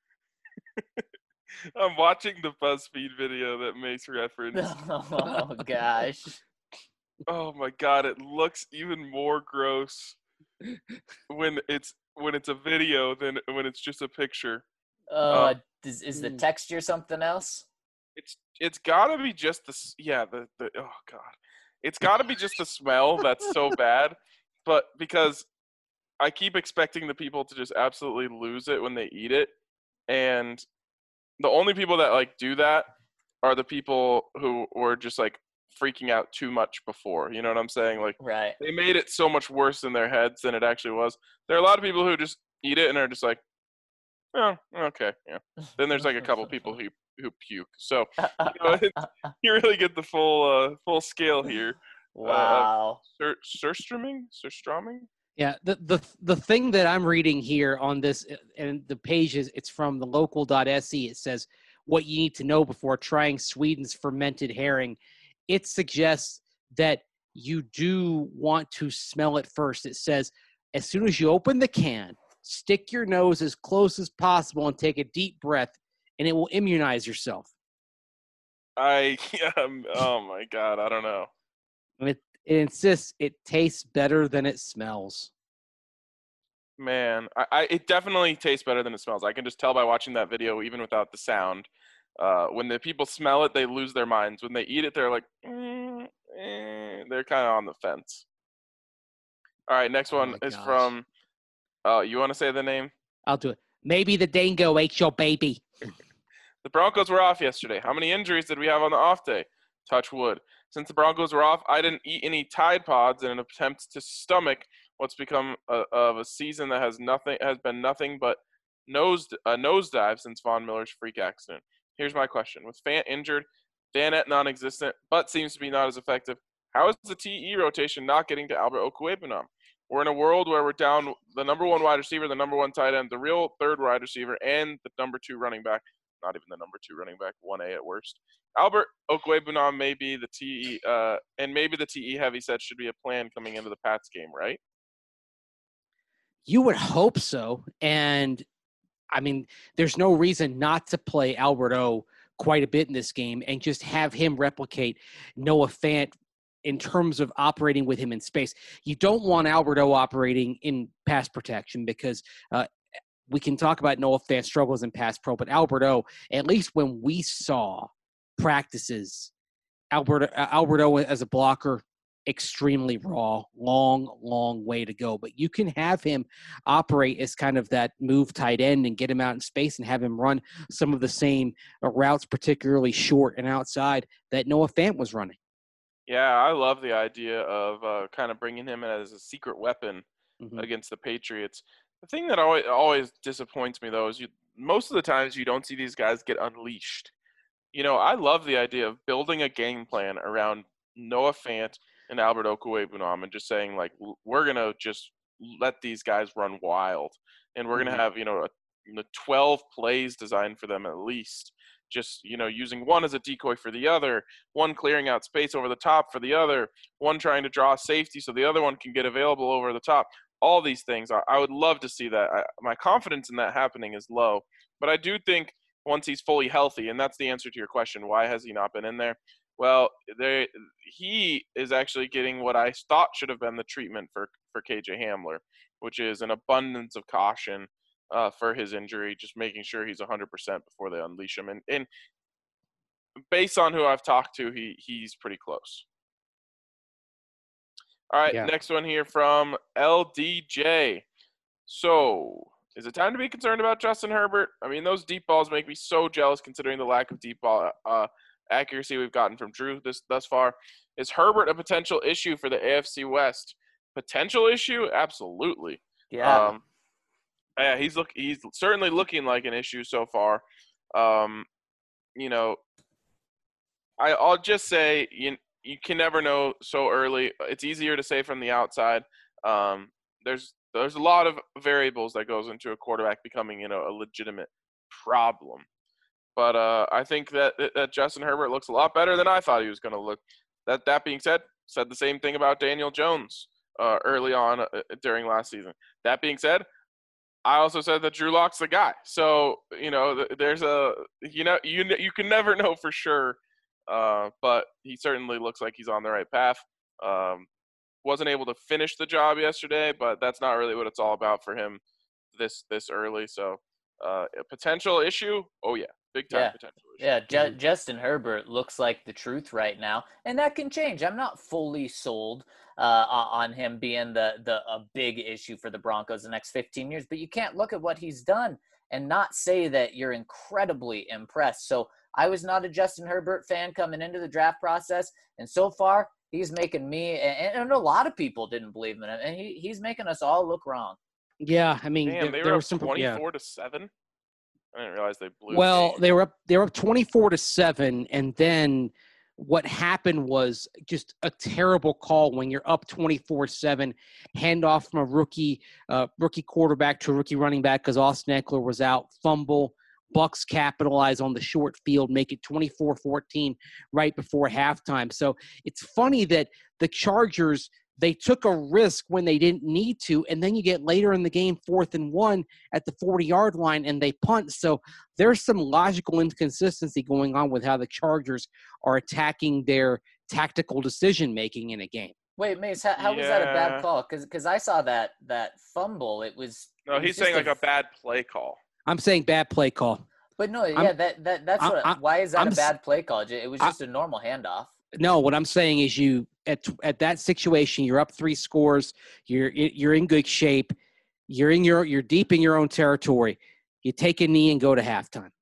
[SPEAKER 1] I'm watching the BuzzFeed video that makes reference.
[SPEAKER 3] Oh, gosh.
[SPEAKER 1] Oh, my God. It looks even more gross when it's when it's a video than when it's just a picture.
[SPEAKER 3] Uh,
[SPEAKER 1] um,
[SPEAKER 3] is, is the texture something else?
[SPEAKER 1] It's It's got to be just the – yeah, the, the – oh, God. It's got to be just the smell that's so bad, but because I keep expecting the people to just absolutely lose it when they eat it, and the only people that, like, do that are the people who were just, like, freaking out too much before. You know what I'm saying? Like,
[SPEAKER 3] right.
[SPEAKER 1] They made it so much worse in their heads than it actually was. There are a lot of people who just eat it and are just like, oh, okay, yeah. Then there's, like, a couple people who who puke. So you, know, it's, you really get the full uh, full scale here.
[SPEAKER 3] Wow.
[SPEAKER 1] Uh, sur- surströmming? Surströmming?
[SPEAKER 4] Yeah, the, the the thing that I'm reading here on this, and the page is, it's from the local dot s e. It says what you need to know before trying Sweden's fermented herring. It suggests that you do want to smell it first. It says as soon as you open the can, stick your nose as close as possible and take a deep breath, and it will immunize yourself.
[SPEAKER 1] I, um, oh my God, I don't know.
[SPEAKER 4] It, it insists it tastes better than it smells.
[SPEAKER 1] Man, I, I, it definitely tastes better than it smells. I can just tell by watching that video, even without the sound. Uh, when the people smell it, they lose their minds. When they eat it, they're like, mm, eh, they're kind of on the fence. All right, next
[SPEAKER 4] Oh
[SPEAKER 1] one
[SPEAKER 4] my
[SPEAKER 1] is
[SPEAKER 4] gosh.
[SPEAKER 1] from, uh, you want to say the name?
[SPEAKER 4] I'll do it. Maybe the dingo ate your baby.
[SPEAKER 1] The Broncos were off yesterday. How many injuries did we have on the off day? Touch wood. Since the Broncos were off, I didn't eat any Tide Pods in an attempt to stomach what's become a, of a season that has nothing has been nothing but nose a nosedive since Von Miller's freak accident. Here's my question: with Fant injured, Vanette non-existent, but seems to be not as effective, how is the T E rotation not getting to Albert Okwuegbunam? We're in a world where we're down the number one wide receiver, the number one tight end, the real third wide receiver, and the number two running back. Not even the number two running back, one A at worst. Albert Okwuegbunam may be the T E, uh, and maybe the T E heavy set should be a plan coming into the Pats game, right?
[SPEAKER 4] You would hope so. And, I mean, there's no reason not to play Albert O quite a bit in this game and just have him replicate Noah Fant in terms of operating with him in space. You don't want Albert O operating in pass protection because uh, we can talk about Noah Fant's struggles in pass pro, but Albert O, at least when we saw practices, Albert, uh, Albert O as a blocker, extremely raw, long, long way to go. But you can have him operate as kind of that move tight end and get him out in space and have him run some of the same uh, routes, particularly short and outside, that Noah Fant was running.
[SPEAKER 1] Yeah, I love the idea of uh, kind of bringing him in as a secret weapon
[SPEAKER 4] Mm-hmm.
[SPEAKER 1] against the Patriots. The thing that always, always disappoints me, though, is you most of the times you don't see these guys get unleashed. You know, I love the idea of building a game plan around Noah Fant and Albert Okwuegbunam and just saying, like, we're going to just let these guys run wild. And we're going to
[SPEAKER 4] Mhm.
[SPEAKER 1] have, you know, a, you know, twelve plays designed for them at least. Just, you know, using one as a decoy for the other, one clearing out space over the top for the other, one trying to draw safety so the other one can get available over the top. All these things, I, I would love to see that. I, my confidence in that happening is low. But I do think once he's fully healthy, and that's the answer to your question, why has he not been in there? Well, there, he is actually getting what I thought should have been the treatment for, for K J Hamler, which is an abundance of caution uh, for his injury, just making sure he's one hundred percent before they unleash him. And, and based on who I've talked to, he he's pretty close. All right,
[SPEAKER 4] Yeah.
[SPEAKER 1] Next one here from L D J. So, is it time to be concerned about Justin Herbert? I mean, those deep balls make me so jealous considering the lack of deep ball uh, accuracy we've gotten from Drew this thus far. Is Herbert a potential issue for the A F C West? Potential issue? Absolutely.
[SPEAKER 3] Yeah.
[SPEAKER 1] Um, yeah, he's look he's certainly looking like an issue so far. Um, you know, I, I'll just say you you can never know so early. It's easier to say from the outside. Um, there's there's a lot of variables that goes into a quarterback becoming, you know, a legitimate problem. But uh, I think that that Justin Herbert looks a lot better than I thought he was going to look. That that being said, said the same thing about Daniel Jones uh, early on uh, during last season. That being said, I also said that Drew Lock's the guy. So, you know, there's a, you know, you you can never know for sure, uh, but he certainly looks like he's on the right path. Um, wasn't able to finish the job yesterday, but that's not really what it's all about for him this this early. So, uh, a potential issue? Oh, yeah. Big time
[SPEAKER 3] Yeah.
[SPEAKER 1] potential issue.
[SPEAKER 3] Yeah, Ju- Justin Herbert looks like the truth right now, and that can change. I'm not fully sold uh, on him being the the a big issue for the Broncos the next fifteen years, but you can't look at what he's done and not say that you're incredibly impressed. So I was not a Justin Herbert fan coming into the draft process, and so far he's making me and, and a lot of people didn't believe in him, and he, he's making us all look wrong.
[SPEAKER 4] Yeah, I mean,
[SPEAKER 1] Damn,
[SPEAKER 4] there,
[SPEAKER 1] they
[SPEAKER 4] there
[SPEAKER 1] were
[SPEAKER 4] was
[SPEAKER 1] up
[SPEAKER 4] some yeah.
[SPEAKER 1] twenty-four to seven. I didn't realize they blew.
[SPEAKER 4] Well,
[SPEAKER 1] the game.
[SPEAKER 4] they were up. They were up twenty-four to seven, and then what happened was just a terrible call when you're up twenty-four seven. Handoff from a rookie, uh, rookie quarterback to a rookie running back because Austin Eckler was out. Fumble. Bucks capitalize on the short field, make it twenty-four fourteen right before halftime. So it's funny that the Chargers, they took a risk when they didn't need to, and then you get later in the game, fourth and one at the forty-yard line, and they punt. So there's some logical inconsistency going on with how the Chargers are attacking their tactical decision-making in a game.
[SPEAKER 3] Wait, Mace, how, how was that a
[SPEAKER 1] Yeah.
[SPEAKER 3] bad call? Because I saw that that fumble. It was
[SPEAKER 1] No,
[SPEAKER 3] it was
[SPEAKER 1] he's
[SPEAKER 3] just
[SPEAKER 1] saying like a bad play call.
[SPEAKER 4] I'm saying bad play call.
[SPEAKER 3] But no,
[SPEAKER 4] I'm-
[SPEAKER 3] yeah, that that that's
[SPEAKER 4] I'm-
[SPEAKER 3] what.
[SPEAKER 4] I'm-
[SPEAKER 3] why is that
[SPEAKER 4] I'm
[SPEAKER 3] a
[SPEAKER 4] s-
[SPEAKER 3] bad play call? It was
[SPEAKER 4] I-
[SPEAKER 3] just a normal handoff.
[SPEAKER 4] No, what I'm saying is you at at that situation, you're up three scores. You're you're in good shape. You're in your you're deep in your own territory. You take a knee and go to halftime.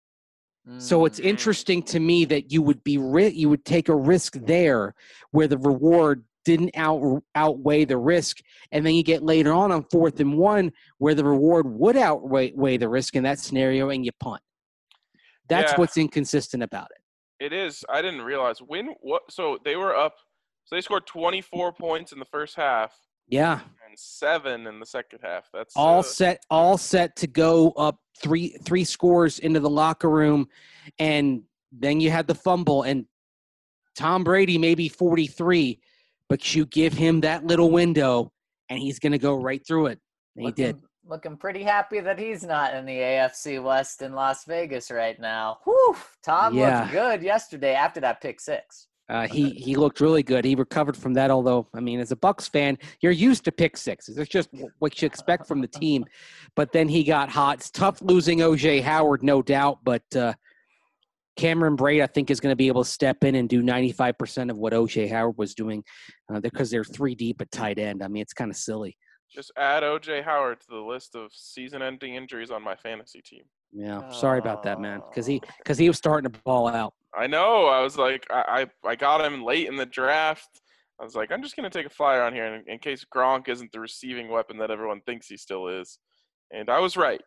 [SPEAKER 4] So it's
[SPEAKER 3] Mm.
[SPEAKER 4] interesting to me that you would be ri- you would take a risk there where the reward didn't out outweigh the risk, and then you get later on on fourth and one where the reward would outweigh weigh the risk in that scenario, and you punt. That's
[SPEAKER 1] Yeah.
[SPEAKER 4] what's inconsistent about it.
[SPEAKER 1] It is. I didn't realize when what. So they were up. So they scored twenty-four points in the first half
[SPEAKER 4] Yeah.
[SPEAKER 1] and seven in the second half. That's
[SPEAKER 4] all
[SPEAKER 1] uh,
[SPEAKER 4] set all set to go up three three scores into the locker room, and then you had the fumble, and Tom Brady may be forty-three, but you give him that little window and he's going to go right through it, and he
[SPEAKER 3] looking,
[SPEAKER 4] did.
[SPEAKER 3] Looking pretty happy that he's not in the A F C West in Las Vegas right now. Whew, Tom
[SPEAKER 4] Yeah.
[SPEAKER 3] looked good yesterday after that pick six.
[SPEAKER 4] Uh, he he looked really good. He recovered from that, although, I mean, as a Bucks fan, you're used to pick sixes. It's just what you expect from the team. But then he got hot. It's tough losing O J Howard, no doubt, but uh, Cameron Braid, I think, is going to be able to step in and do ninety-five percent of what O J Howard was doing uh, because they're three deep at tight end. I mean, it's kind of silly.
[SPEAKER 1] just add O J Howard to the list of season-ending injuries on my fantasy team.
[SPEAKER 4] Yeah, sorry about that, man, because he because he was starting to ball out.
[SPEAKER 1] I know. I was like, I, I, I got him late in the draft. I was like, I'm just going to take a flyer on here in, in case Gronk isn't the receiving weapon that everyone thinks he still is. And I was right.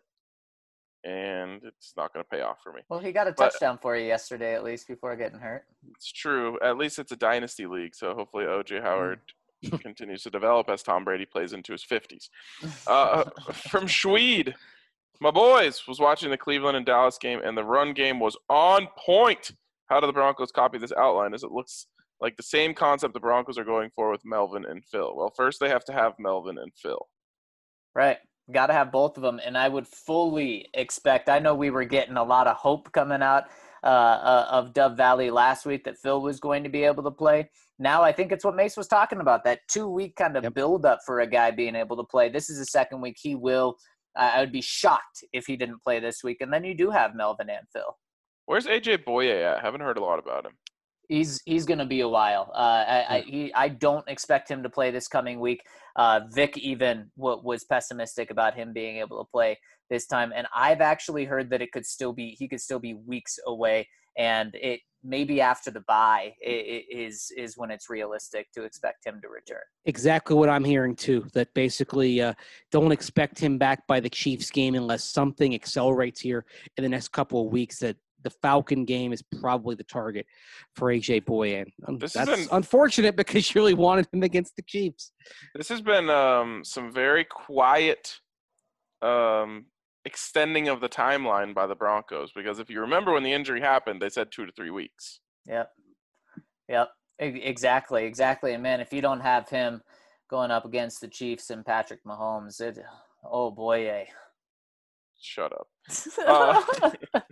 [SPEAKER 1] And it's not going to pay off for me.
[SPEAKER 3] Well, he got a
[SPEAKER 1] But-
[SPEAKER 3] touchdown for you yesterday, at least, before getting hurt.
[SPEAKER 1] It's true. At least it's a dynasty league, so hopefully O J Howard continues to develop as Tom Brady plays into his fifties. Uh, from Schweed, my boys, was watching the Cleveland and Dallas game, and the run game was on point. How do the Broncos copy this outline? As it looks like the same concept the Broncos are going for with Melvin and Phil. Well, first they have to have Melvin and Phil.
[SPEAKER 3] Right. Got to have both of them. And I would fully expect, I know we were getting a lot of hope coming out uh, uh, of Dove Valley last week that Phil was going to be able to play. Now I think it's what Mace was talking about, that two-week kind of
[SPEAKER 4] Yep.
[SPEAKER 3] build-up for a guy being able to play. This is the second week he will. Uh, I would be shocked if he didn't play this week. And then you do have Melvin and Phil.
[SPEAKER 1] Where's A J Boye at? Haven't heard a lot about him.
[SPEAKER 3] He's he's going to be a while. Uh, I I, he, I don't expect him to play this coming week. Uh, Vic even w- was pessimistic about him being able to play this time. And I've actually heard that it could still be, he could still be weeks away. And it maybe after the bye is, is when it's realistic to expect him to return.
[SPEAKER 4] Exactly what I'm hearing too, that basically uh, don't expect him back by the Chiefs game unless something accelerates here in the next couple of weeks, that the Falcon game is probably the target for A J Boye. Um,
[SPEAKER 1] This has
[SPEAKER 4] that's
[SPEAKER 1] been-
[SPEAKER 4] unfortunate because you really wanted him against the Chiefs.
[SPEAKER 1] This has been um, some very quiet um, extending of the timeline by the Broncos, because if you remember when the injury happened, they said two to three weeks.
[SPEAKER 3] Yep. Yep. E- Exactly. Exactly. And man, if you don't have him going up against the Chiefs and Patrick Mahomes, it, oh boy, eh.
[SPEAKER 1] Shut up. Uh,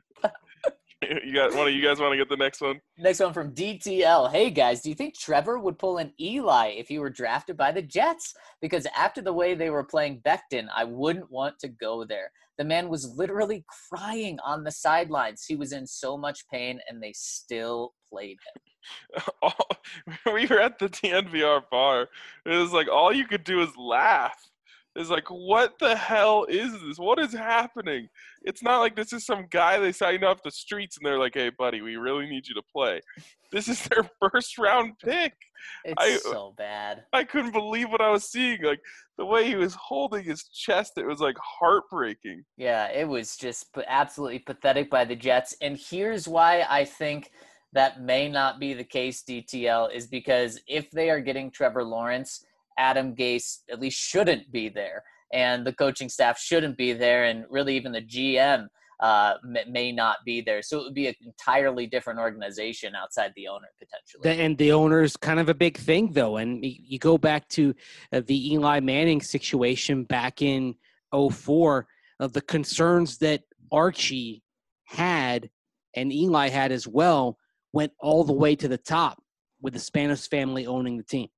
[SPEAKER 1] you got one of you guys want to get the next one?
[SPEAKER 3] Next one from D T L. Hey guys, do you think Trevor would pull an Eli if he were drafted by the Jets? Because after the way they were playing Becton, I wouldn't want to go there. The man was literally crying on the sidelines. He was in so much pain, and they still played him.
[SPEAKER 1] We were at the T N V R bar. It was like all you could do is laugh. It's like, what the hell is this? What is happening? It's not like this is some guy they signed off the streets and they're like, hey, buddy, we really need you to play. This is their first round pick.
[SPEAKER 3] It's
[SPEAKER 1] I-
[SPEAKER 3] so bad.
[SPEAKER 1] I couldn't believe what I was seeing. Like, the way he was holding his chest, it was like heartbreaking.
[SPEAKER 3] Yeah, it was just p- absolutely pathetic by the Jets. And here's why I think that may not be the case, D T L, is because if they are getting Trevor Lawrence, Adam Gase at least shouldn't be there, and the coaching staff shouldn't be there, and really even the G M uh, may, may not be there. So it would be an entirely different organization outside the owner potentially.
[SPEAKER 4] The, and the owner's kind of a big thing, though. And y- you go back to uh, the Eli Manning situation back in oh four, of the concerns that Archie had and Eli had as well went all the way to the top with the Spanos family owning the team.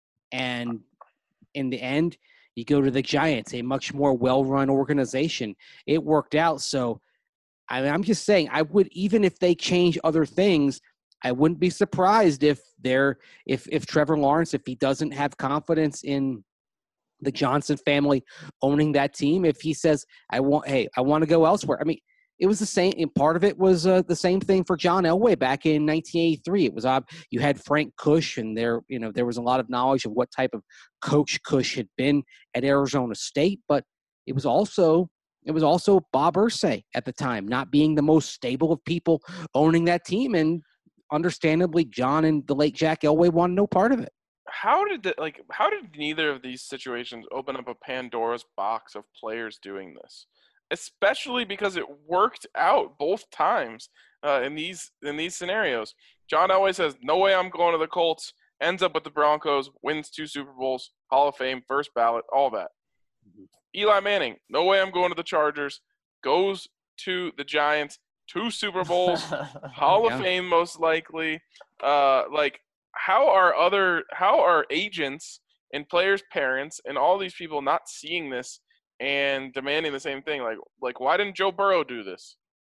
[SPEAKER 4] And in the end, you go to the Giants, a much more well-run organization. It worked out. So I mean, I'm just saying, I would, even if they change other things, I wouldn't be surprised if they're if if Trevor Lawrence, if he doesn't have confidence in the Johnson family owning that team, if he says, I want, hey, I want to go elsewhere. I mean, it was the same, and part of it was uh, the same thing for John Elway back in nineteen eighty-three. It was odd. You had Frank Kush, and there, you know, there was a lot of knowledge of what type of coach Kush had been at Arizona State, but it was also it was also Bob Irsay at the time, not being the most stable of people owning that team, and understandably, John and the late Jack Elway wanted no part of it.
[SPEAKER 1] How did the, like how did neither of these situations open up a Pandora's box of players doing this? Especially because it worked out both times uh, in these in these scenarios. John Elway says, "No way, I'm going to the Colts." Ends up with the Broncos, wins two Super Bowls, Hall of Fame, first ballot, all that. Mm-hmm. Eli Manning, "No way, I'm going to the Chargers." Goes to the Giants, two Super Bowls, Hall
[SPEAKER 4] Yeah.
[SPEAKER 1] of Fame, most likely. Uh, like, how are other how are agents and players' parents and all these people not seeing this and demanding the same thing? Like, like why didn't Joe Burrow do this?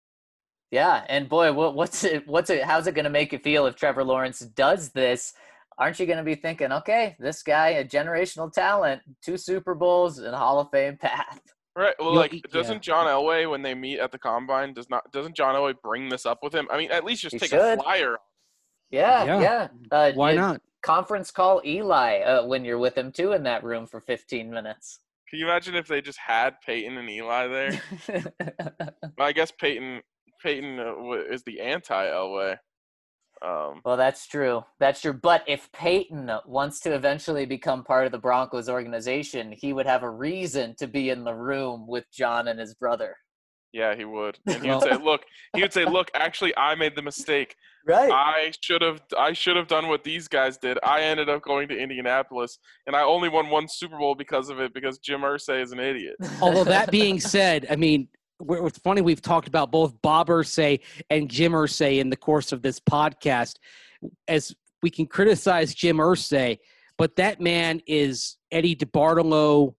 [SPEAKER 3] Yeah, and boy, what, what's it? What's it? How's it going to make you feel if Trevor Lawrence does this? Aren't you going to be thinking, okay, this guy, a generational talent, two Super Bowls and Hall of Fame path?
[SPEAKER 1] Right. Well,
[SPEAKER 4] You'll-
[SPEAKER 1] like,
[SPEAKER 4] yeah.
[SPEAKER 1] doesn't John Elway, when they meet at the combine, does not doesn't John Elway bring this up with him? I mean, at least just
[SPEAKER 3] He
[SPEAKER 1] take
[SPEAKER 3] should.
[SPEAKER 1] a flyer.
[SPEAKER 3] Yeah,
[SPEAKER 4] Yeah.
[SPEAKER 3] yeah. Uh,
[SPEAKER 4] Why
[SPEAKER 3] you-
[SPEAKER 4] not?
[SPEAKER 3] Conference call Eli uh, when you're with him too in that room for fifteen minutes.
[SPEAKER 1] Can you imagine if they just had Peyton and Eli there? Well, I guess Peyton Peyton uh, wa- is the anti-Elway. Um,
[SPEAKER 3] Well, that's true. That's true. But if Peyton wants to eventually become part of the Broncos organization, he would have a reason to be in the room with John and his brother.
[SPEAKER 1] yeah, he would, and he would say, "Look," he would say, "Look, actually, I made the mistake.
[SPEAKER 3] Right.
[SPEAKER 1] I should have I should have done what these guys did. I ended up going to Indianapolis, and I only won one Super Bowl because of it, because Jim Irsay is an idiot."
[SPEAKER 4] Although that being said, I mean, we're- it's funny we've talked about both Bob Irsay and Jim Irsay in the course of this podcast. As we can criticize Jim Irsay, but that man is Eddie DeBartolo,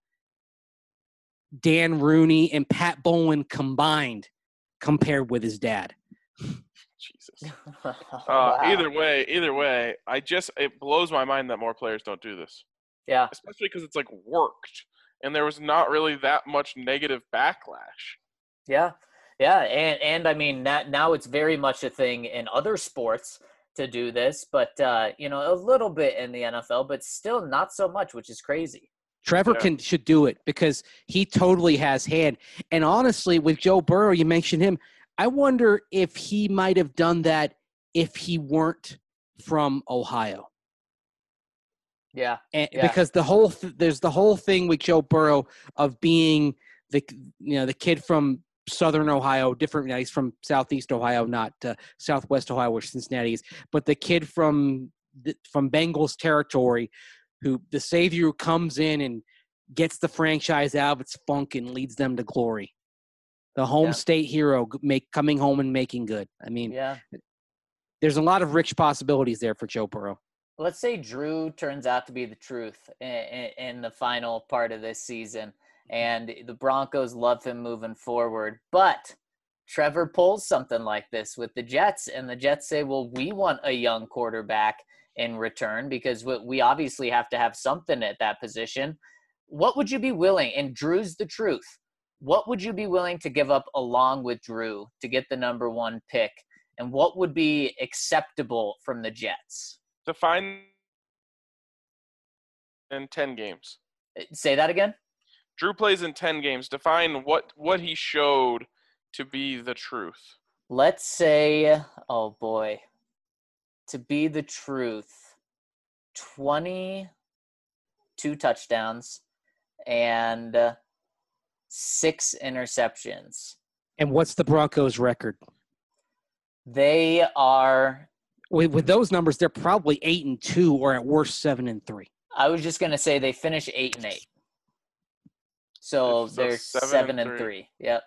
[SPEAKER 4] Dan Rooney, and Pat Bowlen combined compared with his dad.
[SPEAKER 1] Jesus. Uh,
[SPEAKER 3] Wow.
[SPEAKER 1] Either way, either way, I just it blows my mind that more players don't do this,
[SPEAKER 3] Yeah.
[SPEAKER 1] especially because it's like worked. and there was not really that much negative backlash.
[SPEAKER 3] Yeah, yeah, and and I mean that now it's very much a thing in other sports to do this, but uh, you know, a little bit in the N F L, but still not so much, which is crazy.
[SPEAKER 4] Trevor
[SPEAKER 1] Yeah.
[SPEAKER 4] can should do it because he totally has hand. And honestly, with Joe Burrow, you mentioned him. I wonder if he might have done that if he weren't from Ohio.
[SPEAKER 3] Yeah,
[SPEAKER 4] And
[SPEAKER 3] yeah.
[SPEAKER 4] because the whole th- there's the whole thing with Joe Burrow of being the you know the kid from Southern Ohio, different. You know, he's from Southeast Ohio, not uh, Southwest Ohio, where Cincinnati is. But the kid from the, from Bengals territory, who the savior who comes in and gets the franchise out of its funk and leads them to glory. The home
[SPEAKER 3] Yeah.
[SPEAKER 4] state hero make coming home and making good. I mean,
[SPEAKER 3] Yeah.
[SPEAKER 4] there's a lot of rich possibilities there for Joe Burrow.
[SPEAKER 3] Let's say Drew turns out to be the truth in, in, in the final part of this season, and the Broncos love him moving forward. But Trevor pulls something like this with the Jets, and the Jets say, well, we want a young quarterback in return because we, we obviously have to have something at that position. What would you be willing, and Drew's the truth, what would you be willing to give up along with Drew to get the number one pick, and what would be acceptable from the Jets?
[SPEAKER 1] Define in ten games.
[SPEAKER 3] Say that again?
[SPEAKER 1] Drew plays in ten games. Define what, what he showed to be the truth.
[SPEAKER 3] Let's say, oh boy, to be the truth, twenty-two touchdowns and uh, six interceptions.
[SPEAKER 4] And what's the Broncos' record?
[SPEAKER 3] They are,
[SPEAKER 4] With, with those numbers, they're probably eight and two, or at worst seven and three.
[SPEAKER 3] I was just going to say they finish eight and eight. So,
[SPEAKER 1] So
[SPEAKER 3] they're
[SPEAKER 1] seven
[SPEAKER 3] seven,
[SPEAKER 1] and
[SPEAKER 3] and
[SPEAKER 1] three.
[SPEAKER 3] three. Yep.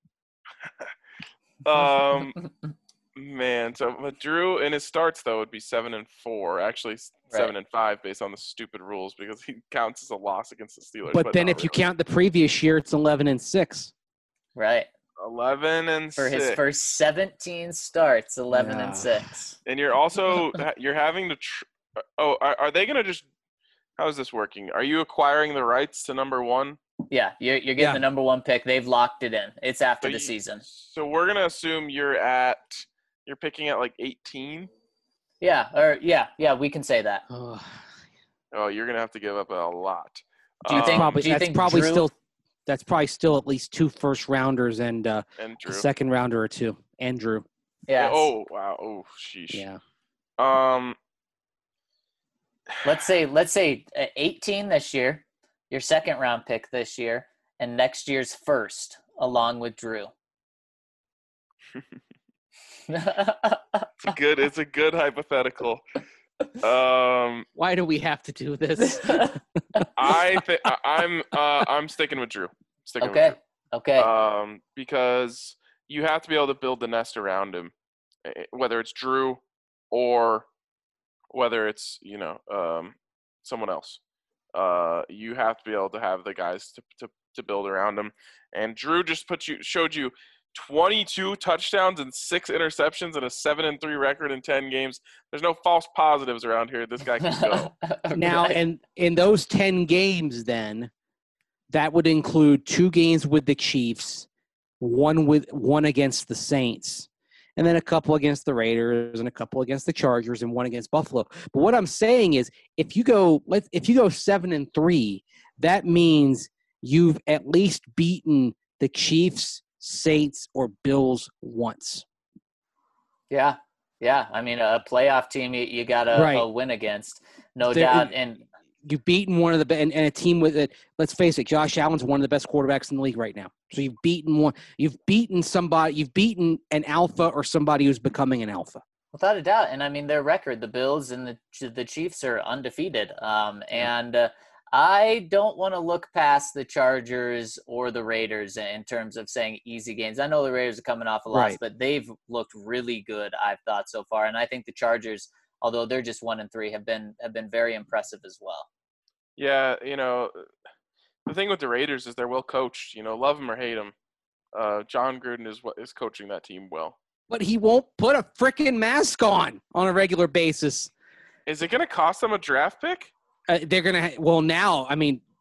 [SPEAKER 1] Um, man, so but Drew in his starts though would be seven and four. Actually, seven
[SPEAKER 3] Right.
[SPEAKER 1] and five based on the stupid rules because he counts as a loss against the Steelers.
[SPEAKER 4] But, then
[SPEAKER 1] not
[SPEAKER 4] if you
[SPEAKER 1] really.
[SPEAKER 4] count the previous year, it's eleven and six.
[SPEAKER 3] Right.
[SPEAKER 1] eleven and
[SPEAKER 3] For
[SPEAKER 1] six,
[SPEAKER 3] his first seventeen starts, eleven
[SPEAKER 4] Yeah.
[SPEAKER 3] and six.
[SPEAKER 1] and you're also you're having to. Tr- oh, are, are they gonna just? How is this working? Are you acquiring the rights to number one?
[SPEAKER 3] Yeah, you're, you're getting
[SPEAKER 4] Yeah.
[SPEAKER 3] the number one pick. They've locked it in. It's after
[SPEAKER 1] So
[SPEAKER 3] the
[SPEAKER 1] you-
[SPEAKER 3] season.
[SPEAKER 1] So we're gonna assume you're at. You're picking at like eighteen.
[SPEAKER 3] Yeah, or yeah, yeah, we can say that.
[SPEAKER 4] Oh,
[SPEAKER 1] Oh, you're gonna have to give up a lot.
[SPEAKER 3] Do you think-
[SPEAKER 4] probably
[SPEAKER 3] do you
[SPEAKER 4] that's
[SPEAKER 3] think
[SPEAKER 4] probably
[SPEAKER 3] Drew-
[SPEAKER 4] still that's probably still at least two first rounders and uh,
[SPEAKER 1] And
[SPEAKER 4] a
[SPEAKER 1] Drew.
[SPEAKER 4] second rounder or two. Andrew.
[SPEAKER 3] Yeah.
[SPEAKER 1] Oh wow. Oh sheesh.
[SPEAKER 4] Yeah.
[SPEAKER 1] Um.
[SPEAKER 3] Let's say let's say uh, eighteen this year, your second round pick this year, and next year's first, along with Drew.
[SPEAKER 1] It's a good. It's a good hypothetical. Um,
[SPEAKER 4] Why do we have to do this?
[SPEAKER 1] I think I'm. Uh, I'm sticking with Drew. Sticking
[SPEAKER 3] okay.
[SPEAKER 1] with
[SPEAKER 3] Okay.
[SPEAKER 1] Drew. Um, because you have to be able to build the nest around him, eh, whether it's Drew or whether it's you know um someone else. Uh, you have to be able to have the guys to to, to build around him. And Drew just put you showed you twenty-two touchdowns and six interceptions and a seven and three record in ten games. There's no false positives around here. This guy can go.
[SPEAKER 4] Now,
[SPEAKER 3] Right.
[SPEAKER 4] and in those ten games, then that would include two games with the Chiefs, one with one against the Saints, and then a couple against the Raiders, and a couple against the Chargers, and one against Buffalo. But what I'm saying is, if you go, let if you go seven and three, that means you've at least beaten the Chiefs, Saints, or Bills once.
[SPEAKER 3] Yeah. Yeah. I mean, a playoff team you, you got to
[SPEAKER 4] Right.
[SPEAKER 3] a win against, no
[SPEAKER 4] There-
[SPEAKER 3] doubt. And
[SPEAKER 4] You've beaten one of the be- and, and a team with it. Let's face it, Josh Allen's one of the best quarterbacks in the league right now. So you've beaten one. You've beaten somebody. You've beaten an alpha or somebody who's becoming an alpha.
[SPEAKER 3] without a doubt, and I mean their record, the Bills and the the Chiefs are undefeated. Um, and uh, I don't want to look past the Chargers or the Raiders in terms of saying easy games. I know the Raiders are coming off a loss,
[SPEAKER 4] Right.
[SPEAKER 3] but they've looked really good, I've thought so far. And I think the Chargers, although they're just one and three, have been have been very impressive as well.
[SPEAKER 1] Yeah, you know, the thing with the Raiders is they're well coached. You know, love them or hate them, uh, John Gruden is what is coaching that team well.
[SPEAKER 4] But he won't put a freaking mask on on a regular basis.
[SPEAKER 1] Is it going to cost them a draft pick?
[SPEAKER 4] Uh, they're gonna. Ha- well, now I mean,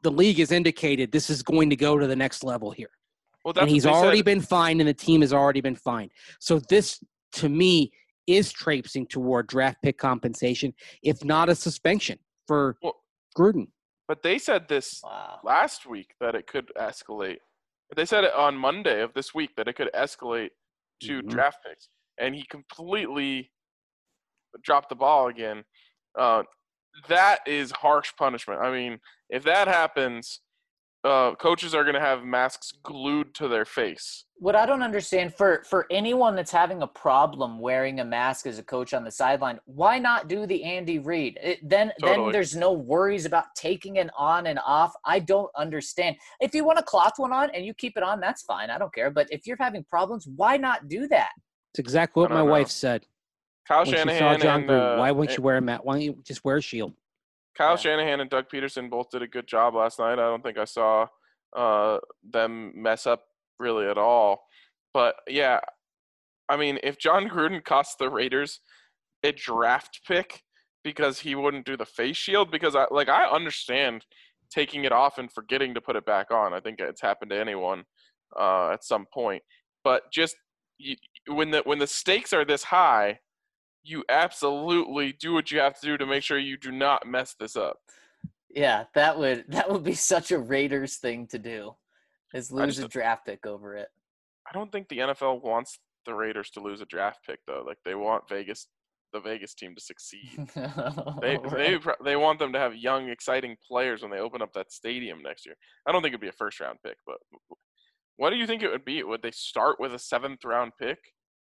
[SPEAKER 4] the league has indicated this is going to go to the next level here.
[SPEAKER 1] Well, that's
[SPEAKER 4] And he's
[SPEAKER 1] what they
[SPEAKER 4] already
[SPEAKER 1] said.
[SPEAKER 4] been fined, and the team has already been fined. So this, to me, is traipsing toward draft pick compensation, if not a suspension for
[SPEAKER 1] Well,
[SPEAKER 4] Gruden.
[SPEAKER 1] But they said this
[SPEAKER 3] Wow.
[SPEAKER 1] last week that it could escalate. They said it on Monday of this week that it could escalate to
[SPEAKER 4] Mhm.
[SPEAKER 1] draft picks, and he completely dropped the ball again. Uh, that is harsh punishment. I mean, if that happens, uh, coaches are going to have masks glued to their face.
[SPEAKER 3] What I don't understand, for for anyone that's having a problem wearing a mask as a coach on the sideline, why not do the Andy Reid? It, then
[SPEAKER 1] Totally.
[SPEAKER 3] then there's no worries about taking it on and off. I don't understand. If you want a cloth one on and you keep it on, that's fine. I don't care. But if you're having problems, why not do that?
[SPEAKER 4] It's exactly what
[SPEAKER 1] I
[SPEAKER 4] my
[SPEAKER 1] don't know.
[SPEAKER 4] wife said.
[SPEAKER 1] Kyle
[SPEAKER 4] When she saw
[SPEAKER 1] Shanahan
[SPEAKER 4] John
[SPEAKER 1] and
[SPEAKER 4] Gruden,
[SPEAKER 1] uh,
[SPEAKER 4] why won't
[SPEAKER 1] and-
[SPEAKER 4] you wear a mat? Why don't you just wear a shield?
[SPEAKER 1] Kyle
[SPEAKER 3] Yeah.
[SPEAKER 1] Shanahan and Doug Peterson both did a good job last night. I don't think I saw uh, them mess up really at all. But, yeah, I mean, if John Gruden cost the Raiders a draft pick because he wouldn't do the face shield, because, I like, I understand taking it off and forgetting to put it back on. I think it's happened to anyone uh, at some point. But just you, when the when the stakes are this high, you absolutely do what you have to do to make sure you do not mess this up.
[SPEAKER 3] Yeah, that would that would be such a Raiders thing to do, is lose
[SPEAKER 1] just-
[SPEAKER 3] a draft pick over it.
[SPEAKER 1] I don't think the N F L wants the Raiders to lose a draft pick, though. Like, they want Vegas, the Vegas team, to succeed. They
[SPEAKER 3] Right.
[SPEAKER 1] they pr- they want them to have young, exciting players when they open up that stadium next year. I don't think it'd be a first round pick, but what do you think it would be? Would they start with a seventh round pick?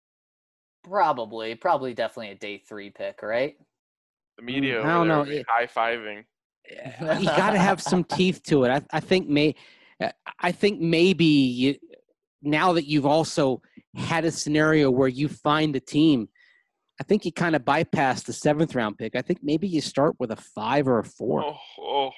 [SPEAKER 3] Probably, probably definitely a day three pick, right?
[SPEAKER 1] The media
[SPEAKER 4] Mm, I
[SPEAKER 1] over
[SPEAKER 4] don't
[SPEAKER 1] there
[SPEAKER 4] know.
[SPEAKER 1] would be
[SPEAKER 4] It-
[SPEAKER 1] high fiving.
[SPEAKER 4] You got to have some teeth to it. I, I think may, I think maybe you, now that you've also had a scenario where you find a team, I think you kind of bypass the seventh round pick. I think maybe you start with a five or a four.
[SPEAKER 1] Oh, oh,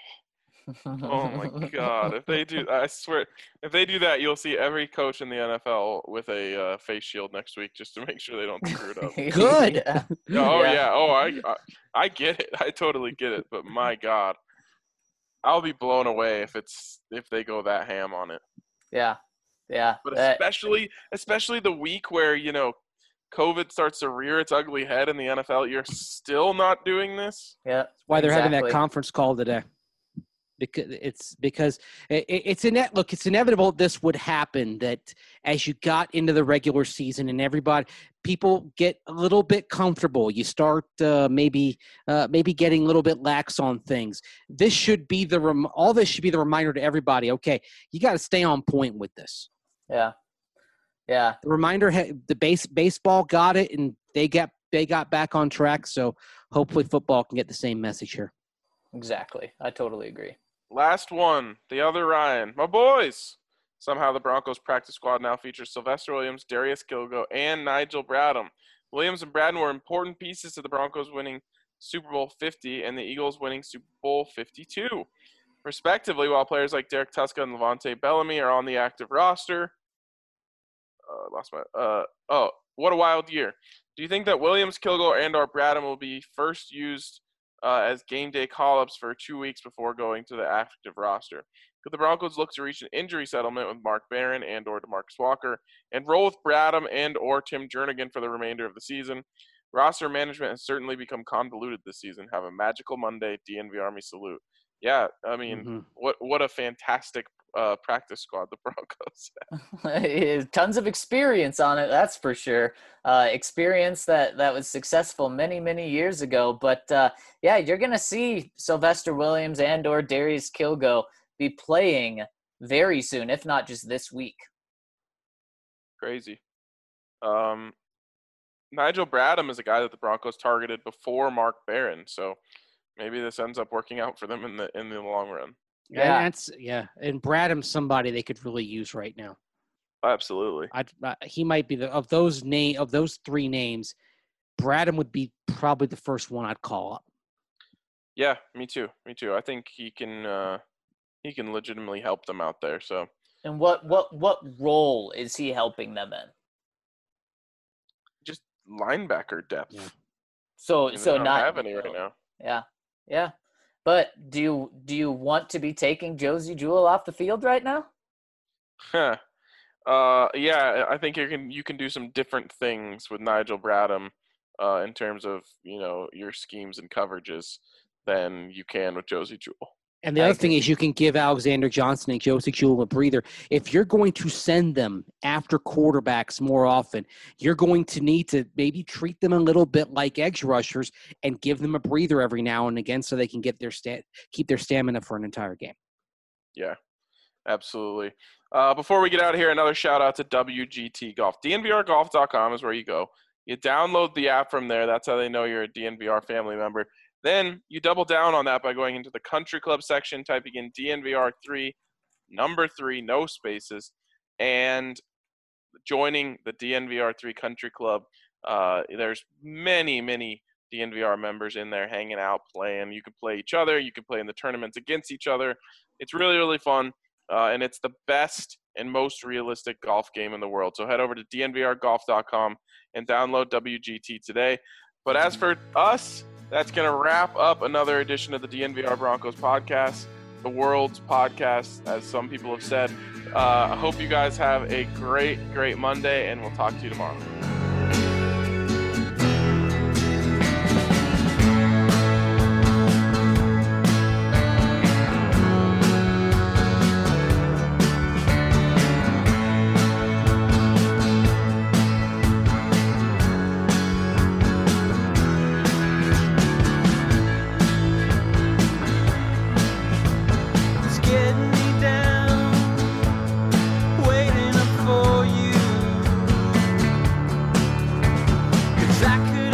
[SPEAKER 1] oh my God! If they do, I swear, if they do that, you'll see every coach in the N F L with a uh, face shield next week just to make sure they don't screw it up.
[SPEAKER 4] Good.
[SPEAKER 3] Yeah.
[SPEAKER 1] Oh
[SPEAKER 3] Yeah.
[SPEAKER 1] yeah. Oh, I, I I get it. I totally get it. But my God, I'll be blown away if it's if they go that ham on it.
[SPEAKER 3] Yeah. Yeah.
[SPEAKER 1] But
[SPEAKER 3] That-
[SPEAKER 1] especially especially the week where, you know, COVID starts to rear its ugly head in the N F L, you're still not doing this.
[SPEAKER 3] yeah.
[SPEAKER 4] Why they're having that
[SPEAKER 3] exactly.
[SPEAKER 4] conference call today. Because it's because it, it's in look, it's inevitable this would happen, that as you got into the regular season and everybody, people get a little bit comfortable. You start uh, maybe uh, maybe getting a little bit lax on things. This should be the rem- all this should be the reminder to everybody. Okay, you got to stay on point with this.
[SPEAKER 3] Yeah. Yeah.
[SPEAKER 4] The reminder, ha- the base baseball got it, and they got they got back on track. So hopefully football can get the same message here.
[SPEAKER 3] Exactly. I totally agree.
[SPEAKER 1] Last one, the other Ryan, my boys. Somehow the Broncos practice squad now features Sylvester Williams, Darius Kilgo, and Nigel Bradham. Williams and Bradham were important pieces to the Broncos winning Super Bowl fifty and the Eagles winning Super Bowl fifty-two, respectively, while players like Derek Tuska and Levante Bellamy are on the active roster. Uh, lost my. Uh, oh, what a wild year! Do you think that Williams, Kilgore, and or Bradham will be first used uh, as game day call-ups for two weeks before going to the active roster? Could the Broncos look to reach an injury settlement with Mark Barron and or DeMarcus Walker and roll with Bradham and or Tim Jernigan for the remainder of the season? Roster management has certainly become convoluted this season. Have a magical Monday, D N V Army salute. Yeah, I mean,
[SPEAKER 4] Mhm.
[SPEAKER 1] what what a fantastic uh, practice squad the Broncos have.
[SPEAKER 3] Tons of experience on it, that's for sure. Uh, experience that that was successful many, many years ago. But uh, yeah, you're gonna see Sylvester Williams and or Darius Kilgo be playing very soon, if not just this week.
[SPEAKER 1] Crazy. Um, Nigel Bradham is a guy that the Broncos targeted before Mark Barron, so maybe this ends up working out for them in the in the long run.
[SPEAKER 3] Yeah.
[SPEAKER 4] And that's yeah. And Bradham's somebody they could really use right now.
[SPEAKER 1] Absolutely.
[SPEAKER 4] I'd, uh, he might be the of those name of those three names. Bradham would be probably the first one I'd call up.
[SPEAKER 1] Yeah, me too. Me too. I think he can uh, he can legitimately help them out there. So
[SPEAKER 3] And what what what role is he helping them in?
[SPEAKER 1] just linebacker depth.
[SPEAKER 4] Yeah.
[SPEAKER 3] So
[SPEAKER 1] And they
[SPEAKER 3] so
[SPEAKER 1] don't
[SPEAKER 3] not
[SPEAKER 1] have any right now.
[SPEAKER 3] Yeah, yeah. But do you do you want to be taking Josie Jewell off the field right now?
[SPEAKER 1] Huh. Uh, yeah, I think you can you can do some different things with Nigel Bradham uh, in terms of, you know, your schemes and coverages than you can with Josie Jewell.
[SPEAKER 4] And the
[SPEAKER 3] I
[SPEAKER 4] other thing
[SPEAKER 3] agree.
[SPEAKER 4] is you can give Alexander Johnson and Josie Jewell a breather. If you're going to send them after quarterbacks more often, you're going to need to maybe treat them a little bit like edge rushers and give them a breather every now and again so they can get their sta- keep their stamina for an entire game.
[SPEAKER 1] Yeah, absolutely. Uh, before we get out of here, another shout out to W G T Golf. D N V R golf dot com is where you go. You download the app from there. That's how they know you're a D N V R family member. Then you double down on that by going into the country club section, typing in D N V R three, number three, no spaces, and joining the D N V R three country club. Uh, there's many, many D N V R members in there hanging out, playing. You can play each other. You can play in the tournaments against each other. It's really, really fun, uh, and it's the best and most realistic golf game in the world. So head over to D N V R golf dot com and download W G T today. But as for us, that's going to wrap up another edition of the D N V R Broncos podcast, the world's podcast, as some people have said. Uh, I hope you guys have a great, great Monday, and we'll talk to you tomorrow.
[SPEAKER 2] It's getting me down, waiting up for you. 'Cause I could